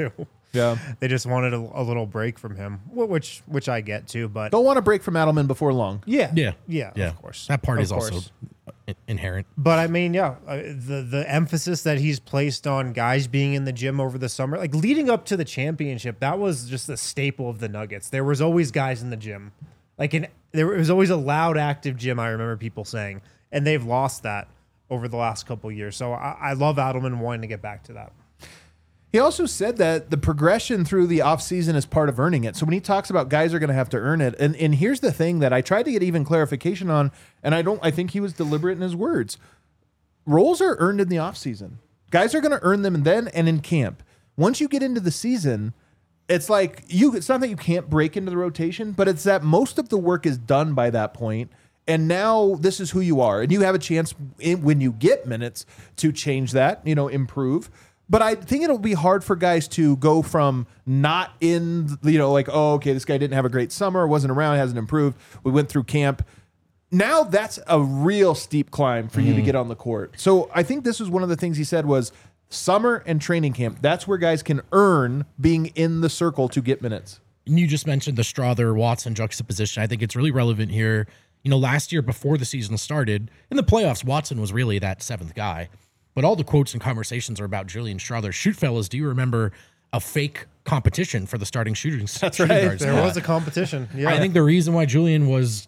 Yeah. They just wanted a, a little break from him, wh- which which I get too. But They'll want a break from Adelman before long. yeah, Yeah. yeah, Yeah. of course. That part Of is also course. in- inherent. But I mean, yeah, uh, the the emphasis that he's placed on guys being in the gym over the summer, like leading up to the championship, that was just a staple of the Nuggets. There was always guys in the gym, like in there was always a loud, active gym. I remember people saying, and they've lost that over the last couple of years. So I, I love Adelman wanting to get back to that. He also said that the progression through the offseason is part of earning it. So when he talks about guys are going to have to earn it, and, and here's the thing that I tried to get even clarification on, and I don't I think he was deliberate in his words. Roles are earned in the offseason. Guys are going to earn them then and in camp. Once you get into the season, it's like you it's not that you can't break into the rotation, but it's that most of the work is done by that point. And now this is who you are. And you have a chance in, when you get minutes to change that, you know, improve. But I think it'll be hard for guys to go from not in, you know, like, oh, okay, this guy didn't have a great summer, wasn't around, hasn't improved. We went through camp. Now that's a real steep climb for you to get on the court. So I think this was one of the things he said was summer and training camp. That's where guys can earn being in the circle to get minutes. And you just mentioned the Strother Watson juxtaposition. I think it's really relevant here. You know, last year before the season started, in the playoffs, Watson was really that seventh guy. But all the quotes and conversations are about Julian Strother. Shoot, fellas, do you remember a fake competition for the starting shooting, That's shooting right. guards? There Yeah. was a competition. Yeah, I think the reason why Julian was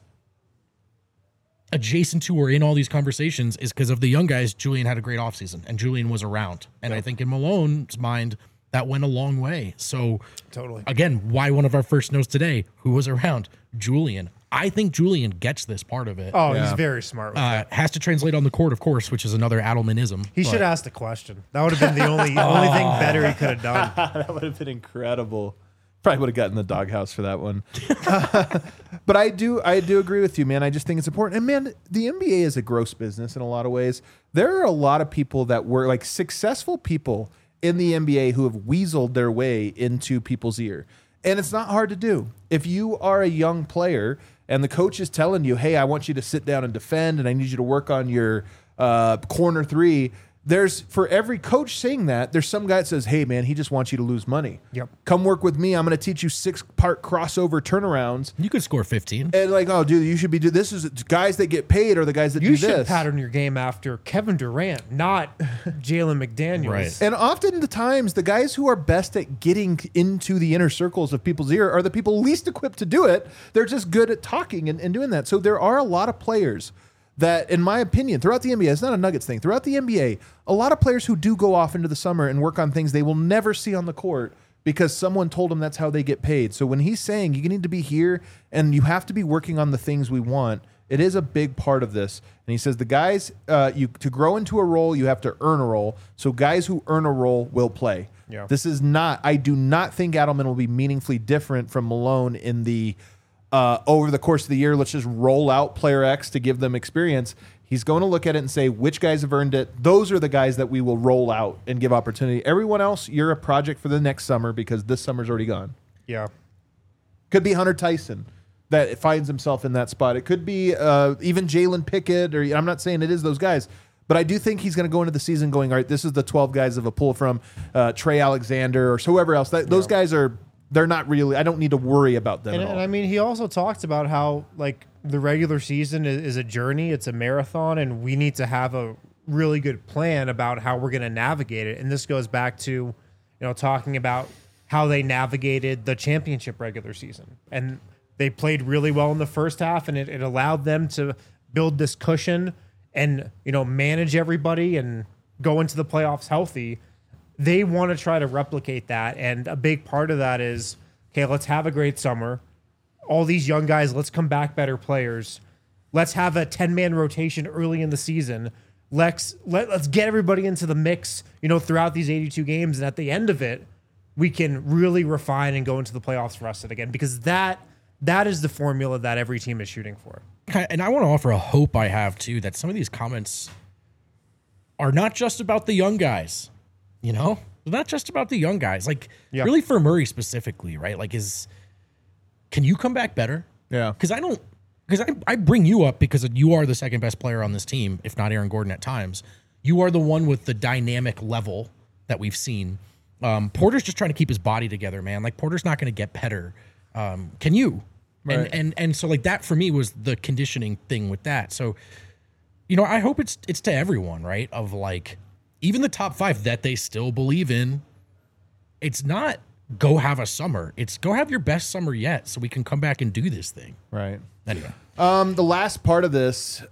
adjacent to or in all these conversations is because of the young guys. Julian had a great offseason, and Julian was around. And yep. I think in Malone's mind, that went a long way. So, totally. Again, why one of our first notes today? Who was around? Julian. I think Julian gets this part of it. Oh, Yeah. he's very smart with Uh, that. has to translate on the court, of course, which is another Adelmanism. He but- should have asked a question. That would have been the only only thing better he could have done. That would have been incredible. Probably would have gotten the doghouse for that one. But I do I do agree with you, man. I just think it's important. And man, the N B A is a gross business in a lot of ways. There are a lot of people that were like successful people in the N B A who have weaseled their way into people's ear. And it's not hard to do. If you are a young player and the coach is telling you, hey, I want you to sit down and defend and I need you to work on your uh, corner three, there's for every coach saying that, there's some guy that says, hey, man, he just wants you to lose money. Yep. Come work with me. I'm going to teach you six-part crossover turnarounds. You could score fifteen. And like, oh, dude, you should be doing this. Is guys that get paid are the guys that You do should this. pattern your game after Kevin Durant, not Jalen McDaniels. Right. And often the times, the guys who are best at getting into the inner circles of people's ear are the people least equipped to do it. They're just good at talking and, and doing that. So there are a lot of players that, in my opinion, throughout the N B A, it's not a Nuggets thing. Throughout the N B A, a lot of players who do go off into the summer and work on things they will never see on the court because someone told them that's how they get paid. So when he's saying you need to be here and you have to be working on the things we want, it is a big part of this. And he says the guys, uh, you to grow into a role, you have to earn a role. So guys who earn a role will play. Yeah. This is not, I do not think Adelman will be meaningfully different from Malone in the uh, over the course of the year, let's just roll out player X to give them experience. He's going to look at it and say, which guys have earned it? Those are the guys that we will roll out and give opportunity. Everyone else, you're a project for the next summer because this summer's already gone. Yeah. Could be Hunter Tyson that finds himself in that spot. It could be uh, even Jalen Pickett, or I'm not saying it is those guys, but I do think he's going to go into the season going, all right, this is the twelve guys of a pull from uh, Trey Alexander or whoever else. That, those guys are, they're not really, I don't need to worry about them And, at all. and I mean, he also talked about how like the regular season is, is a journey, it's a marathon, and we need to have a really good plan about how we're going to navigate it. And this goes back to, you know, talking about how they navigated the championship regular season. And they played really well in the first half, and it, it allowed them to build this cushion and, you know, manage everybody and go into the playoffs healthy. They want to try to replicate that. And a big part of that is, okay, let's have a great summer. All these young guys, let's come back better players. Let's have a ten-man rotation early in the season. Let's, let, let's get everybody into the mix, you know, throughout these eighty-two games. And at the end of it, we can really refine and go into the playoffs rested again, because that that is the formula that every team is shooting for. And I want to offer a hope I have, too, that some of these comments are not just about the young guys, you know? They're not just about the young guys. Like, Yeah. really for Murray specifically, right? Like, is can you come back better? Yeah. Because I don't, because I, I bring you up because you are the second best player on this team, if not Aaron Gordon at times. You are the one with the dynamic level that we've seen. Um, Porter's just trying to keep his body together, man. Like Porter's not going to get better. Um, can you? Right. And and and so like that for me was the conditioning thing with that. So, you know, I hope it's it's to everyone, right? Of like even the top five that they still believe in. It's not go have a summer. It's go have your best summer yet, so we can come back and do this thing. Right. Anyway, um, the last part of this,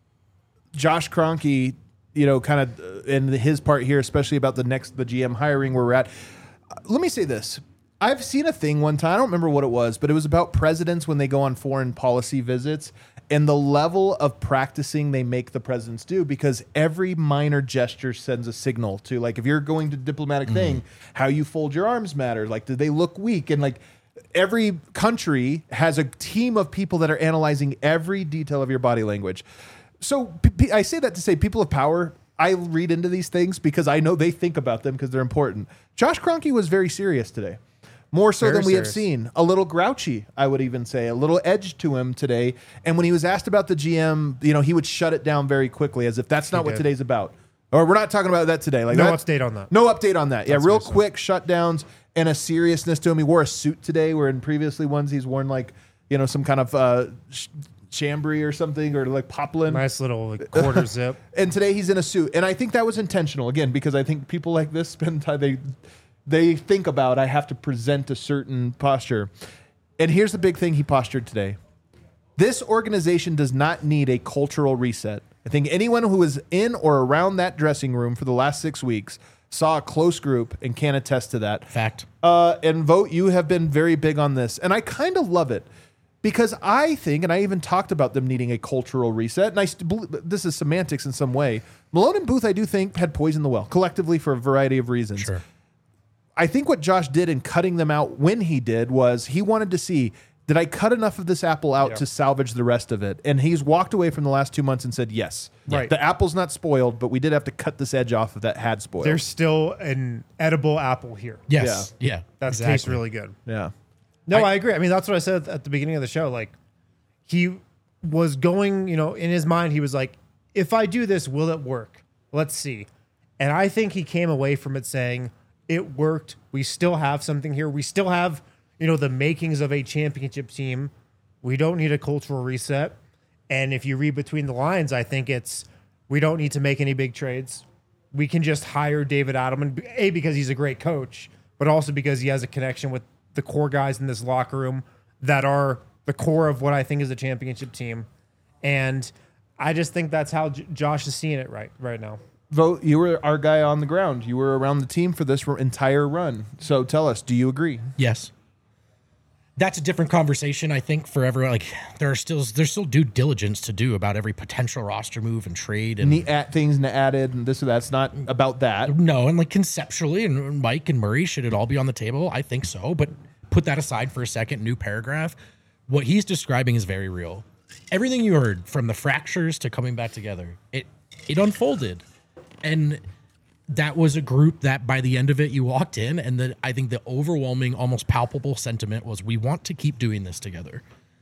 Josh Kroenke, you know, kind of in his part here, especially about the next the G M hiring where we're at. Uh, let me say this. I've seen a thing one time, I don't remember what it was, but it was about presidents when they go on foreign policy visits and the level of practicing they make the presidents do, because every minor gesture sends a signal to, like, if you're going to diplomatic mm-hmm. thing, how you fold your arms matters. Like, do they look weak? And like every country has a team of people that are analyzing every detail of your body language. So p- p- I say that to say people of power, I read into these things because I know they think about them because they're important. Josh Kroenke was very serious today. More so Very than we serious. have seen. A little grouchy, I would even say. A little edge to him today. And when he was asked about the G M, you know, he would shut it down very quickly as if that's not He what did. today's about. Or we're not talking about that today. Like No that's- update on that. No update on that. Yeah, That's real what he said. quick shutdowns and a seriousness to him. He wore a suit today, where in previously ones he's worn like, you know, some kind of uh, sh- chambray or something, or like poplin. Nice little like, quarter zip. And today he's in a suit. And I think that was intentional, again, because I think people like this spend time, they they think about, I have to present a certain posture. And here's the big thing he postured today. This organization does not need a cultural reset. I think anyone who was in or around that dressing room for the last six weeks saw a close group and can attest to that. fact. Uh, and Vote, you have been very big on this. And I kind of love it because I think, and I even talked about them needing a cultural reset, and I st- believe, this is semantics in some way. Malone and Booth, I do think, had poisoned the well collectively for a variety of reasons. Sure. I think what Josh did in cutting them out when he did was he wanted to see, did I cut enough of this apple out Yeah. to salvage the rest of it? And he's walked away from the last two months and said, yes. Right. The apple's not spoiled, but we did have to cut this edge off that had spoiled. There's still an edible apple here. Yes. Yeah. That exactly. tastes really good. yeah. No, I- I, agree. I mean, that's what I said at the beginning of the show. Like, he was going, you know, in his mind, he was like, if I do this, will it work? Let's see. And I think he came away from it saying, it worked. We still have something here. We still have, you know, the makings of a championship team. We don't need a cultural reset. And if you read between the lines, I think it's, we don't need to make any big trades. We can just hire David Adelman, A, because he's a great coach, but also because he has a connection with the core guys in this locker room that are the core of what I think is a championship team. And I just think that's how J- Josh is seeing it right right now. Vote, you were our guy on the ground. You were around the team for this r- entire run. So tell us, do you agree? Yes. That's a different conversation, I think, for everyone. Like there are still there's still due diligence to do about every potential roster move and trade and Neat at things and added and this or that's not about that. no, and like conceptually, and Mike and Murray, should it all be on the table? I think so. But put that aside for a second. New paragraph. What he's describing is very real. Everything you heard, from the fractures to coming back together, it it unfolded, and that was a group that by the end of it you walked in, and the I think the overwhelming, almost palpable sentiment was, we want to keep doing this together.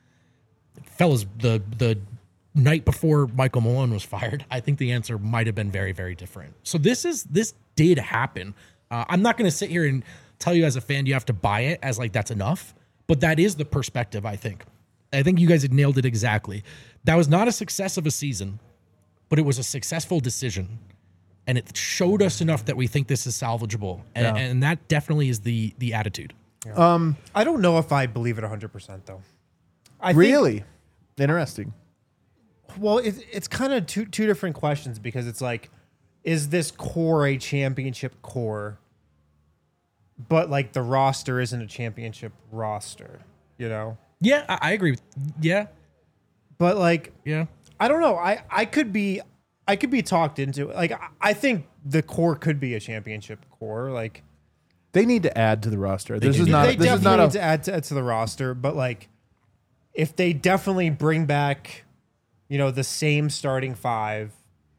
Fellas, the the night before Michael Malone was fired, I think the answer might have been very, very different. So this is this did happen. Uh, I'm not going to sit here and tell you as a fan you have to buy it as like that's enough, but that is the perspective, I think. I think you guys had nailed it exactly. That was not a success of a season, but it was a successful decision. And it showed us enough that we think this is salvageable. And, Yeah. and that definitely is the the attitude. I don't know if I believe it one hundred percent, though. I think- Really? Interesting. Well, it, it's kind of two two different questions, because it's like, is this core a championship core? But like the roster isn't a championship roster, you know? Yeah, I, I agree. With, yeah, But like, yeah. I don't know. I, I could be I could be talked into it. Like, I, I think the core could be a championship core. Like, They need to add to the roster. This do is need not. they This is definitely not need a. to add to, to the roster. But like, if they definitely bring back, you know, the same starting five,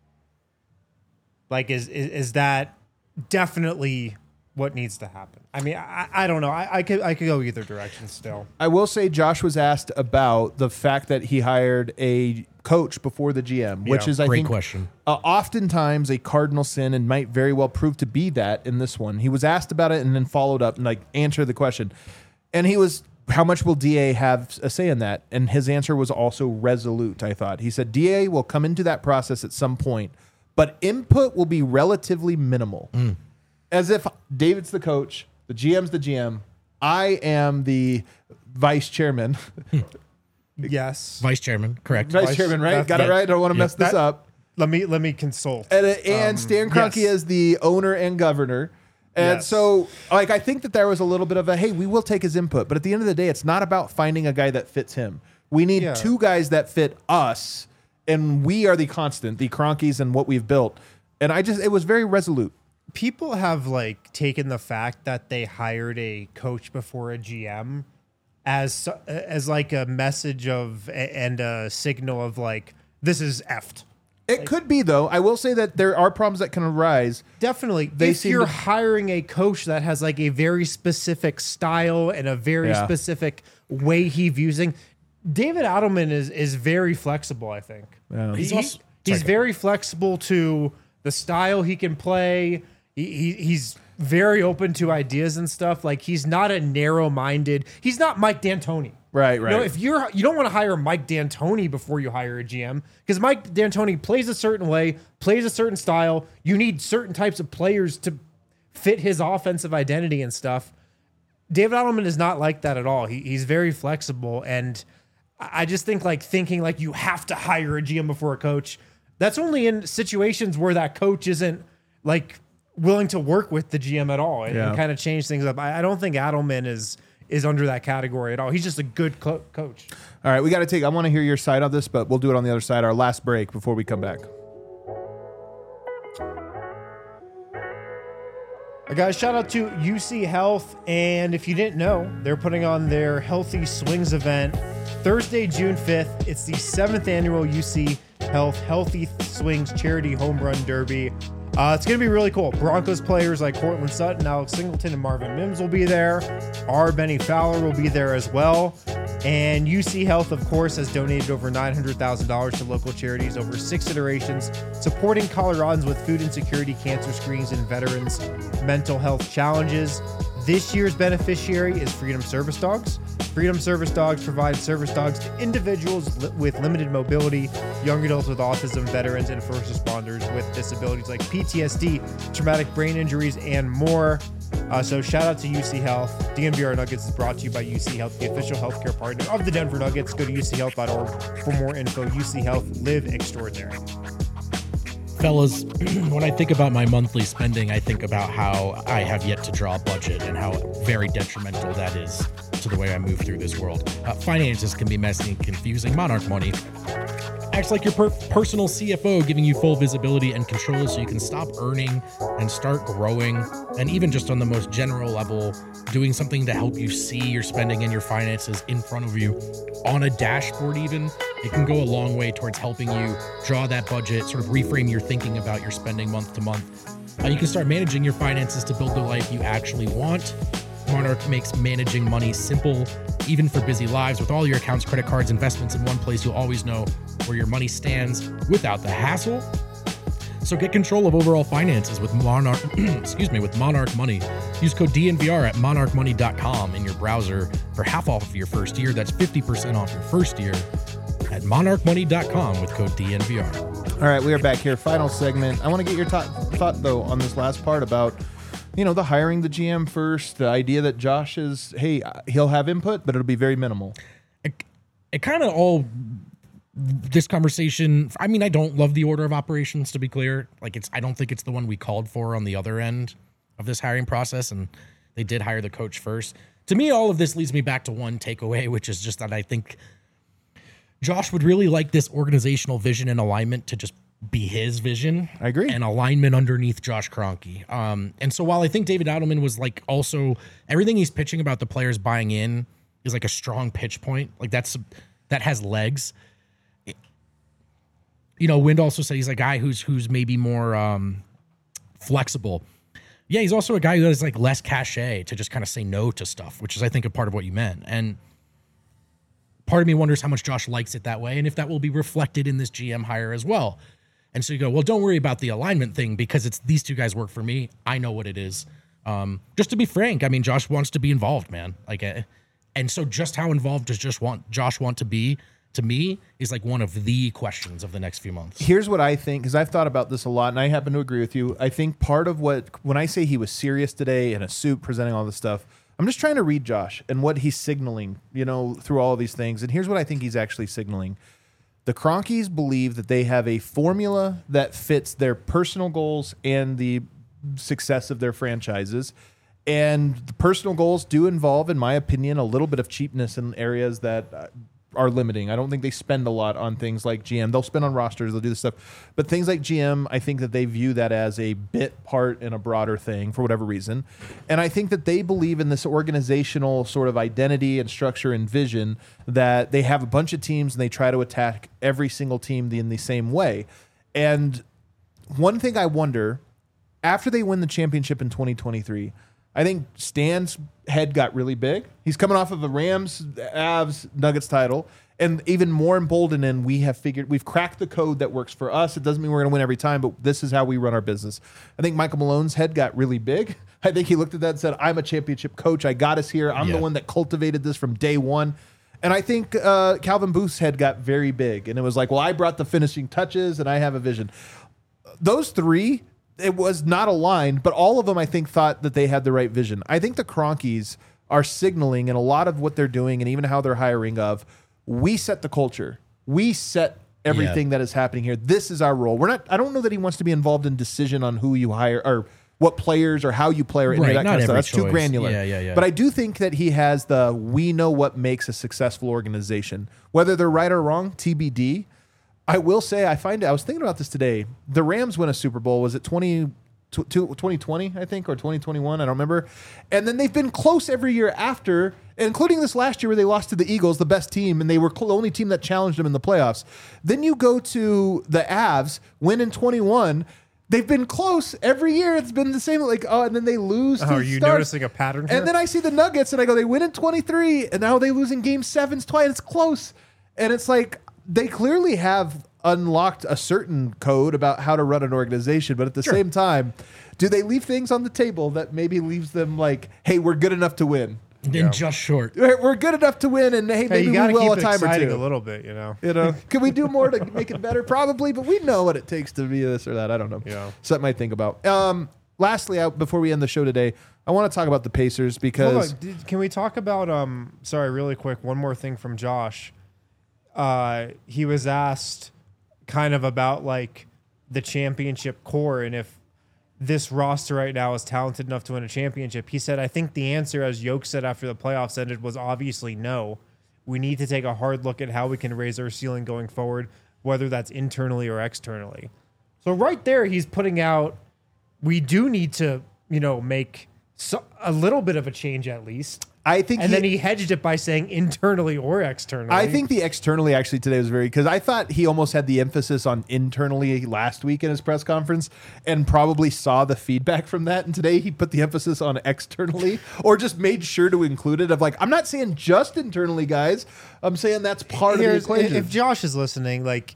like, is is, is that definitely what needs to happen? I mean, I, I don't know. I, I could I could go either direction still. I will say Josh was asked about the fact that he hired a coach before the G M, which Yeah, is, I great think, question. Uh, oftentimes a cardinal sin and might very well prove to be that in this one. He was asked about it and then followed up and like answered the question. And he was, how much will D A have a say in that? And his answer was also resolute, I thought. He said, D A will come into that process at some point, but input will be relatively minimal. Mm. As if David's the coach, the G M's the G M, I am the vice chairman. Yes. Vice chairman, correct. Vice Vice- chairman, right? that- Got it that- right? Don't want to yeah, mess this that- up. Let me let me consult. And, uh, and Stan Kroenke yes. is the owner and governor. And Yes. so, like, I think that there was a little bit of a, hey, we will take his input. But at the end of the day, it's not about finding a guy that fits him. We need Yeah. two guys that fit us. And we are the constant, the Kroenkes and what we've built. And I just, it was very resolute. People have like taken the fact that they hired a coach before a G M as as like a message of and a signal of like this is effed. It could be, though. I will say that there are problems that can arise. Definitely. They if seem you're to- hiring a coach that has like a very specific style and a very Yeah. specific way he views things, David Adelman is is very flexible, I think. Yeah. He's, He's also- he's sorry. very flexible to the style he can play. He, he he's very open to ideas and stuff. Like he's not a narrow-minded. He's not Mike D'Antoni. Right, You right. know, if you're you don't want to hire Mike D'Antoni before you hire a G M because Mike D'Antoni plays a certain way, plays a certain style. You need certain types of players to fit his offensive identity and stuff. David Adelman is not like that at all. He, he's very flexible, and I I just think like thinking like you have to hire a G M before a coach. That's only in situations where that coach isn't like willing to work with the G M at all and, Yeah. kind of change things up. I, I don't think Adelman is is under that category at all. He's just a good co- coach. All right, we got to take, I want to hear your side on this, but we'll do it on the other side, our last break before we come back. Uh, guys, shout out to U C Health. And if you didn't know, they're putting on their Healthy Swings event Thursday, June fifth. It's the seventh annual U C Health Healthy Swings Charity Home Run Derby. Uh, it's going to be really cool. Broncos players like Cortland Sutton, Alex Singleton, and Marvin Mims will be there. Our Benny Fowler will be there as well. And U C Health, of course, has donated over nine hundred thousand dollars to local charities over six iterations, supporting Coloradans with food insecurity, cancer screenings, and veterans' mental health challenges. This year's beneficiary is Freedom Service Dogs. Freedom Service Dogs provide service dogs to individuals li- with limited mobility, young adults with autism, veterans, and first responders with disabilities like P T S D, traumatic brain injuries, and more. Uh, so shout out to U C Health. D N V R Nuggets is brought to you by U C Health, the official healthcare partner of the Denver Nuggets. Go to U C health dot org for more info. U C Health, live extraordinary. Fellas, when I think about my monthly spending, I think about how I have yet to draw a budget and how very detrimental that is to the way I move through this world. Uh, finances can be messy and confusing. Monarch Money acts like your per- personal C F O, giving you full visibility and control so you can stop earning and start growing. And even just on the most general level, doing something to help you see your spending and your finances in front of you on a dashboard even, it can go a long way towards helping you draw that budget, sort of reframe your thinking about your spending month to month. Uh, you can start managing your finances to build the life you actually want. Monarch makes managing money simple, even for busy lives. With all your accounts, credit cards, investments in one place, you'll always know where your money stands without the hassle. So get control of overall finances with Monarch, excuse me, with Monarch Money. Use code D N V R at monarch money dot com in your browser for half off of your first year. That's fifty percent off your first year at monarch money dot com with code D N V R. All right, we are back here. Final segment. I want to get your thought, thought though, on this last part about, you know, the hiring the G M first, the idea that Josh is, hey, he'll have input, but it'll be very minimal. It, it kind of all, this conversation, I mean, I don't love the order of operations, to be clear. Like, it's, I don't think it's the one we called for on the other end of this hiring process, and they did hire the coach first. To me, all of this leads me back to one takeaway, which is just that I think Josh would really like this organizational vision and alignment to just be his vision. I agree. And alignment underneath Josh Kroenke. Um, and so while I think David Adelman was like also everything he's pitching about the players buying in is like a strong pitch point. Like that's that has legs. You know, Wind also said he's a guy who's who's maybe more um, flexible. Yeah, he's also a guy who has like less cachet to just kind of say no to stuff, which is I think a part of what you meant. And part of me wonders how much Josh likes it that way and if that will be reflected in this G M hire as well. And so you go, well, don't worry about the alignment thing because it's these two guys work for me. I know what it is. Um, just to be frank, I mean, Josh wants to be involved, man. Like, uh, and so just how involved does just want Josh want to be? To me, is like one of the questions of the next few months. Here's what I think, because I've thought about this a lot, and I happen to agree with you. I think part of what, when I say he was serious today in a suit presenting all this stuff, I'm just trying to read Josh and what he's signaling, you know, through all of these things. And here's what I think he's actually signaling. The Cronkies believe that they have a formula that fits their personal goals and the success of their franchises. And the personal goals do involve, in my opinion, a little bit of cheapness in areas that uh, are limiting. I don't think they spend a lot on things like G M. They'll spend on rosters, they'll do this stuff. But things like G M, I think that they view that as a bit part in a broader thing for whatever reason. And I think that they believe in this organizational sort of identity and structure and vision that they have a bunch of teams and they try to attack every single team in the same way. And one thing I wonder, after they win the championship in twenty twenty-three, I think Stan's head got really big. He's coming off of a Rams, Avs, Nuggets title. And even more emboldened, and we have figured, we've cracked the code that works for us. It doesn't mean we're going to win every time, but this is how we run our business. I think Michael Malone's head got really big. I think he looked at that and said, I'm a championship coach. I got us here. I'm Yeah. the one that cultivated this from day one. And I think uh, Calvin Booth's head got very big. And it was like, well, I brought the finishing touches and I have a vision. Those three, it was not aligned, but all of them, I think, thought that they had the right vision. I think the Cronkies are signaling in a lot of what they're doing and even how they're hiring of, we set the culture. We set everything Yeah. that is happening here. This is our role. We're not, I don't know that he wants to be involved in decision on who you hire or what players or how you play or any Right, of that not kind of stuff. every That's too choice. granular. Yeah, yeah, yeah. But I do think that he has the, we know what makes a successful organization. Whether they're right or wrong, T B D. I will say, I find, I was thinking about this today. The Rams win a Super Bowl. Was it twenty, twenty twenty, I think, or twenty twenty-one? I don't remember. And then they've been close every year after, including this last year where they lost to the Eagles, the best team, and they were the only team that challenged them in the playoffs. Then you go to the Avs, win in twenty-one. They've been close every year. It's been the same. Like, oh, and then they lose. Oh, to are you start. noticing a pattern here? And then I see the Nuggets, and I go, they win in twenty-three, and now they lose in game sevens twice. It's close. And it's like, they clearly have unlocked a certain code about how to run an organization, but at the same time, do they leave things on the table that maybe leaves them like, hey, we're good enough to win? And just short. We're we're good enough to win, and hey, Hey, maybe you we got to will keep a it time or exciting two. a little bit, you know. You know, can we do more to make it better? Probably, but we know what it takes to be this or that. I don't know. Yeah. Something I think about. Um, lastly, I, before we end the show today, I want to talk about the Pacers because Hold on. Did, can we talk about? Um, sorry, really quick. One more thing from Josh. Uh, he was asked kind of about like the championship core and if this roster right now is talented enough to win a championship. He said, I think the answer, as Yoke said after the playoffs ended, was obviously no. We need to take a hard look at how we can raise our ceiling going forward, whether that's internally or externally. So right there, he's putting out, we do need to, you know, make so, a little bit of a change at least. I think, And he, then he hedged it by saying internally or externally. I think the externally actually today was very, because I thought he almost had the emphasis on internally last week in his press conference and probably saw the feedback from that. And today he put the emphasis on externally or just made sure to include it of like, I'm not saying just internally, guys. I'm saying that's part Here's- of the equation. If Josh is listening, like,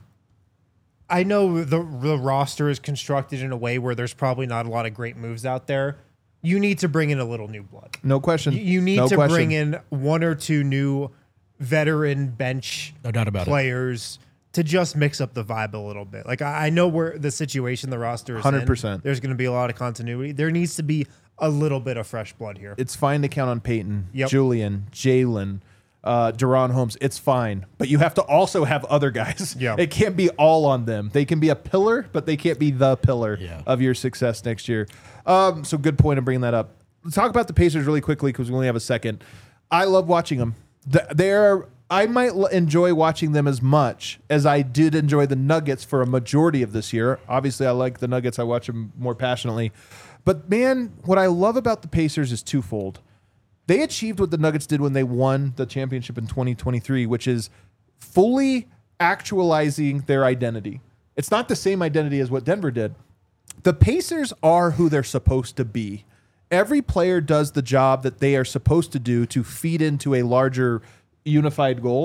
I know the the roster is constructed in a way where there's probably not a lot of great moves out there. You need to bring in a little new blood. no question. You, you need No to question. bring in one or two new veteran bench No doubt about it. players to just mix up the vibe a little bit. Like, I, I know where the situation the roster is one hundred in. percent. There's going to be a lot of continuity. There needs to be a little bit of fresh blood here. It's fine to count on Peyton, Yep. Julian, Jalen, uh, Deron Holmes. It's fine. But you have to also have other guys. Yeah. It can't be all on them. They can be a pillar, but they can't be the pillar Yeah. of your success next year. Um, so good point in bringing that up. Let's talk about the Pacers really quickly because we only have a second. I love watching them. Th- They're, I might l- enjoy watching them as much as I did enjoy the Nuggets for a majority of this year. Obviously, I like the Nuggets. I watch them more passionately. But, man, what I love about the Pacers is twofold. They achieved what the Nuggets did when they won the championship in twenty twenty-three, which is fully actualizing their identity. It's not the same identity as what Denver did. The Pacers are who they're supposed to be. Every player does the job that they are supposed to do to feed into a larger unified goal.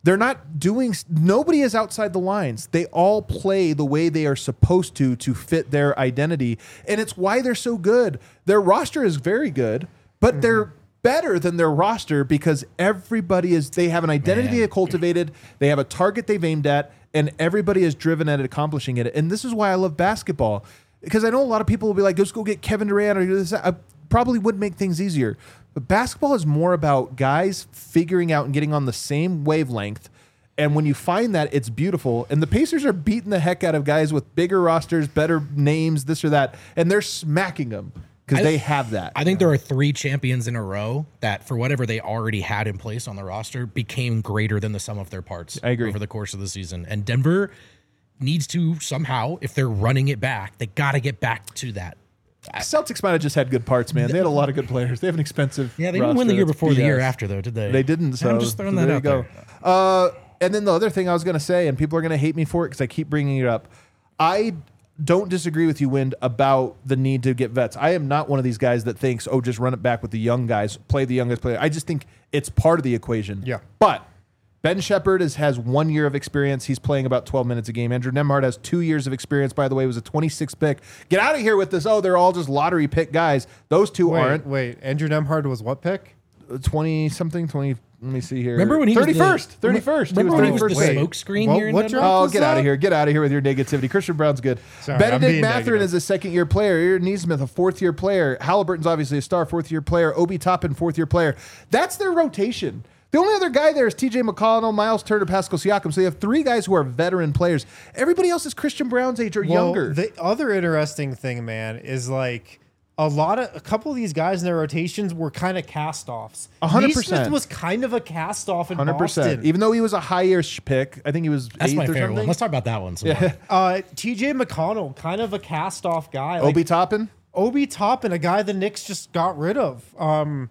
They're not doing, nobody is outside the lines. They all play the way they are supposed to to fit their identity. And it's why they're so good. Their roster is very good, but mm-hmm. they're better than their roster because everybody is, they have an identity Man. they cultivated, they have a target they've aimed at, and everybody is driven at accomplishing it. And this is why I love basketball. Because I know a lot of people will be like, let's go get Kevin Durant or do this. I probably would make things easier. But basketball is more about guys figuring out and getting on the same wavelength. And when you find that, it's beautiful. And the Pacers are beating the heck out of guys with bigger rosters, better names, this or that. And they're smacking them because they have that. I think there are three champions in a row that, for whatever they already had in place on the roster, became greater than the sum of their parts I agree. over the course of the season. And Denver needs to somehow, if they're running it back, they got to get back to that. Celtics might have just had good parts, man. They had a lot of good players. They have an expensive Yeah, they didn't win roster. the year That's before the year B S. after, though, did they? They didn't. So I'm just throwing so that there out you go. there. Uh, and then the other thing I was going to say, and people are going to hate me for it because I keep bringing it up. I don't disagree with you, Wind, about the need to get vets. I am not one of these guys that thinks, oh, just run it back with the young guys, play the youngest player. I just think it's part of the equation. Yeah. But Ben Shepherd is, has one year of experience. He's playing about twelve minutes a game. Andrew Nembhard has two years of experience, by the way. He was a twenty-sixth pick. Get out of here with this, oh, they're all just lottery pick guys. Those two Wait, aren't. wait. Andrew Nembhard was what pick? twenty-something, twenty, let me see here. Remember when he was the- thirty-first, thirty-first. Remember when he was the thirty-first. smoke screen What- here in what Denver? draft? Oh, was get out that? of here. Get out of here with your negativity. Christian Brown's good. Sorry, I'm Benedict being Mathurin negative. is a second-year player. Aaron Neesmith, a fourth-year player. Halliburton's obviously a star, fourth-year player. Obi Toppin, fourth-year player. That's their rotation. The only other guy there is T J McConnell, Miles Turner, Pascal Siakam. So you have three guys who are veteran players. Everybody else is Christian Brown's age or Well, younger. The other interesting thing, man, is like a lot of a couple of these guys in their rotations were kind of cast-offs. A hundred Neesmith percent. was kind of a cast-off in one hundred percent. Boston. Even though he was a high-ish pick. I think he was That's eighth my or favorite something. one. Let's talk about that one some more. Uh, T J McConnell, kind of a cast-off guy. Like, Obi Toppin? Obi Toppin, a guy the Knicks just got rid of. Um,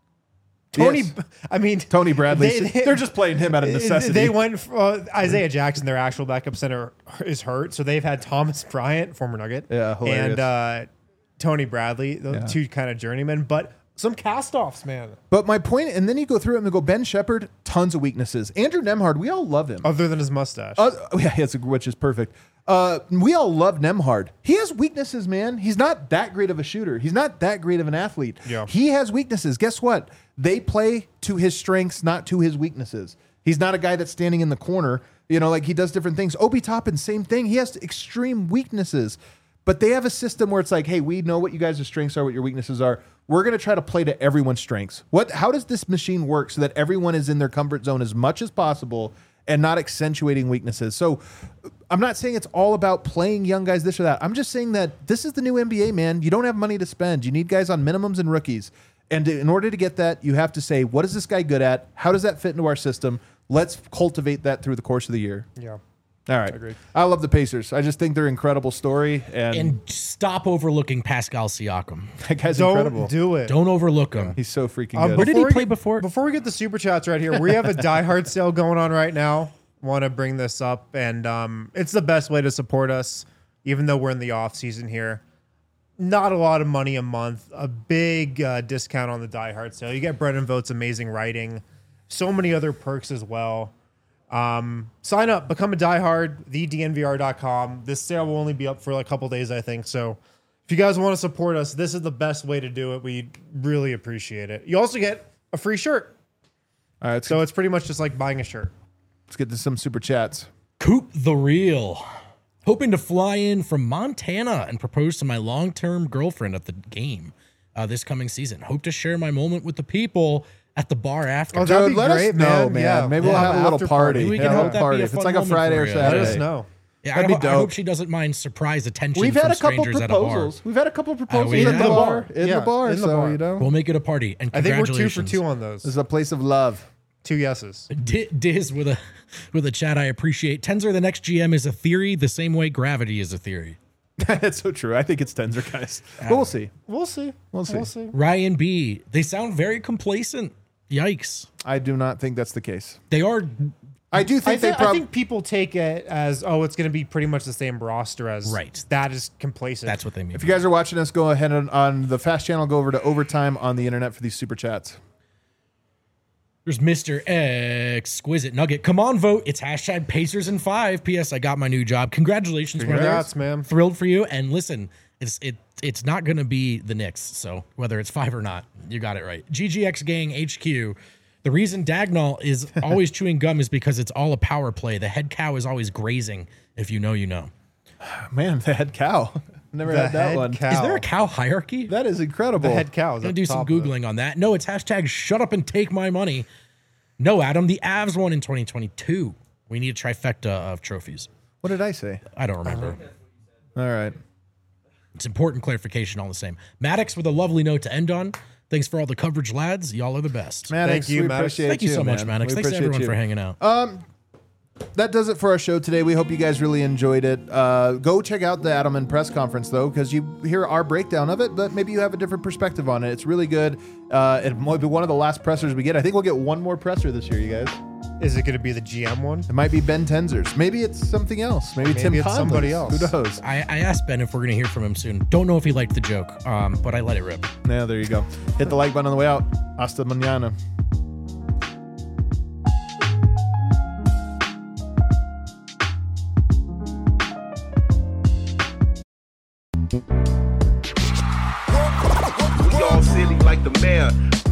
Tony, Yes. I mean Tony Bradley. They, they, They're just playing him out of necessity. They went for, uh, Isaiah Jackson, their actual backup center, is hurt, so they've had Thomas Bryant, former Nugget, Yeah, hilarious. and uh, Tony Bradley, the Yeah. two kind of journeymen, but some cast-offs, man. But my point, and then you go through it and go, Ben Shepherd, tons of weaknesses. Andrew Nembhard, we all love him. Other than his mustache. Uh, yeah, yes, which is perfect. Uh, we all love Nembhard. He has weaknesses, man. He's not that great of a shooter. He's not that great of an athlete. Yeah. He has weaknesses. Guess what? They play to his strengths, not to his weaknesses. He's not a guy that's standing in the corner. You know, like he does different things. Obi Toppin, same thing. He has extreme weaknesses. But they have a system where it's like, hey, we know what you guys' strengths are, what your weaknesses are. We're going to try to play to everyone's strengths. What? How does this machine work so that everyone is in their comfort zone as much as possible and not accentuating weaknesses? So I'm not saying it's all about playing young guys, this or that. I'm just saying that this is the new N B A, man. You don't have money to spend. You need guys on minimums and rookies. And in order to get that, you have to say, what is this guy good at? How does that fit into our system? Let's cultivate that through the course of the year. yeah. All right. Agreed. I love the Pacers. I just think they're an incredible story. And, And stop overlooking Pascal Siakam. that guy's Don't incredible. do it. Don't overlook him. He's so freaking Um, good. Where did he we play get- before? Before we get the super chats right here, we have a Die Hard sale going on right now. Want to bring this up, and um, it's the best way to support us, even though we're in the off season here. Not a lot of money a month, a big uh, discount on the Die Hard sale. You get Brendan Vote's amazing writing, so many other perks as well. Um, sign up, become a diehard, the D N V R dot com. This sale will only be up for like a couple days, I think. So if you guys want to support us, this is the best way to do it. We really appreciate it. You also get a free shirt. All right, let's, So it's pretty much just like buying a shirt. let's get to some super chats. Coop the Real. Hoping to fly in from Montana and propose to my long-term girlfriend at the game uh, this coming season. Hope to share my moment with the people at the bar after. Oh, that'd Dude, be let great, us know, man. man. Yeah, Maybe we'll we'll have have a an little after party. party. We Yeah, can a hope little that'd be party. a If it's fun like a moment Friday for or you. Let Saturday. us know. Yeah, That'd I, be ho- I hope dope. she doesn't mind surprise attention We've from had a couple strangers at a proposals. bar. We've had a couple proposals we in have. the bar. In Yeah, the bar. in the so, bar. you know, We'll make it a party. And I think we're two for congratulations. two on those. this is a place of love. Two yeses. D- Diz with a with a chat I appreciate. Tenzer, the next G M, is a theory the same way gravity is a theory. That's so true. I think it's Tenzer, guys. But we'll see. We'll see. We'll see. We'll see. Ryan B. They sound very complacent. Yikes. I do not think that's the case. They are. I do I, think thi- they I probably. think people take it as, oh, it's going to be pretty much the same roster as. Right. That is complacent. That's what they mean. If you guys are watching us, go ahead and on the Fast channel, go over to Overtime on the internet for these super chats. There's Mister Exquisite Nugget. Come on, vote. It's hashtag Pacers in five. P S. I got my new job. Congratulations, Congrats, brother. man. Thrilled for you. And listen, it's it it's not going to be the Knicks. So whether it's five or not, you got it right. G G X Gang H Q. The reason Dagnall is always chewing gum is because it's all a power play. The head cow is always grazing. If you know, you know. Man, the head cow. Never The had that head one. cow. Is there a cow hierarchy? That is incredible. The head cow. I'm going to do some Googling on that. No, it's hashtag shut up and take my money. No, Adam, the Avs won in twenty twenty-two. We need a trifecta of trophies. What did I say? I don't remember. All right. It's important clarification all the same. Maddox with a lovely note to end on. Thanks for all the coverage, lads. Y'all are the best. Maddox, Thank you, we Maddox. appreciate Thank you so man. much, Maddox. We Thanks to appreciate everyone you. for hanging out. That does it for our show today. We hope you guys really enjoyed it. Uh, go check out the Adelman press conference, though, because you hear our breakdown of it, but maybe you have a different perspective on it. It's really good. Uh, it might be one of the last pressers we get. I think we'll get one more presser this year, you guys. Is it going to be the G M one? It might be Ben Tenzers. Maybe it's something else. Maybe, Maybe Tim it's Conley. somebody else. Who knows? I, I asked Ben if we're going to hear from him soon. Don't know if he liked the joke, um, but I let it rip. Yeah, there you go. Hit the like button on the way out. Hasta mañana. We all silly like the mayor.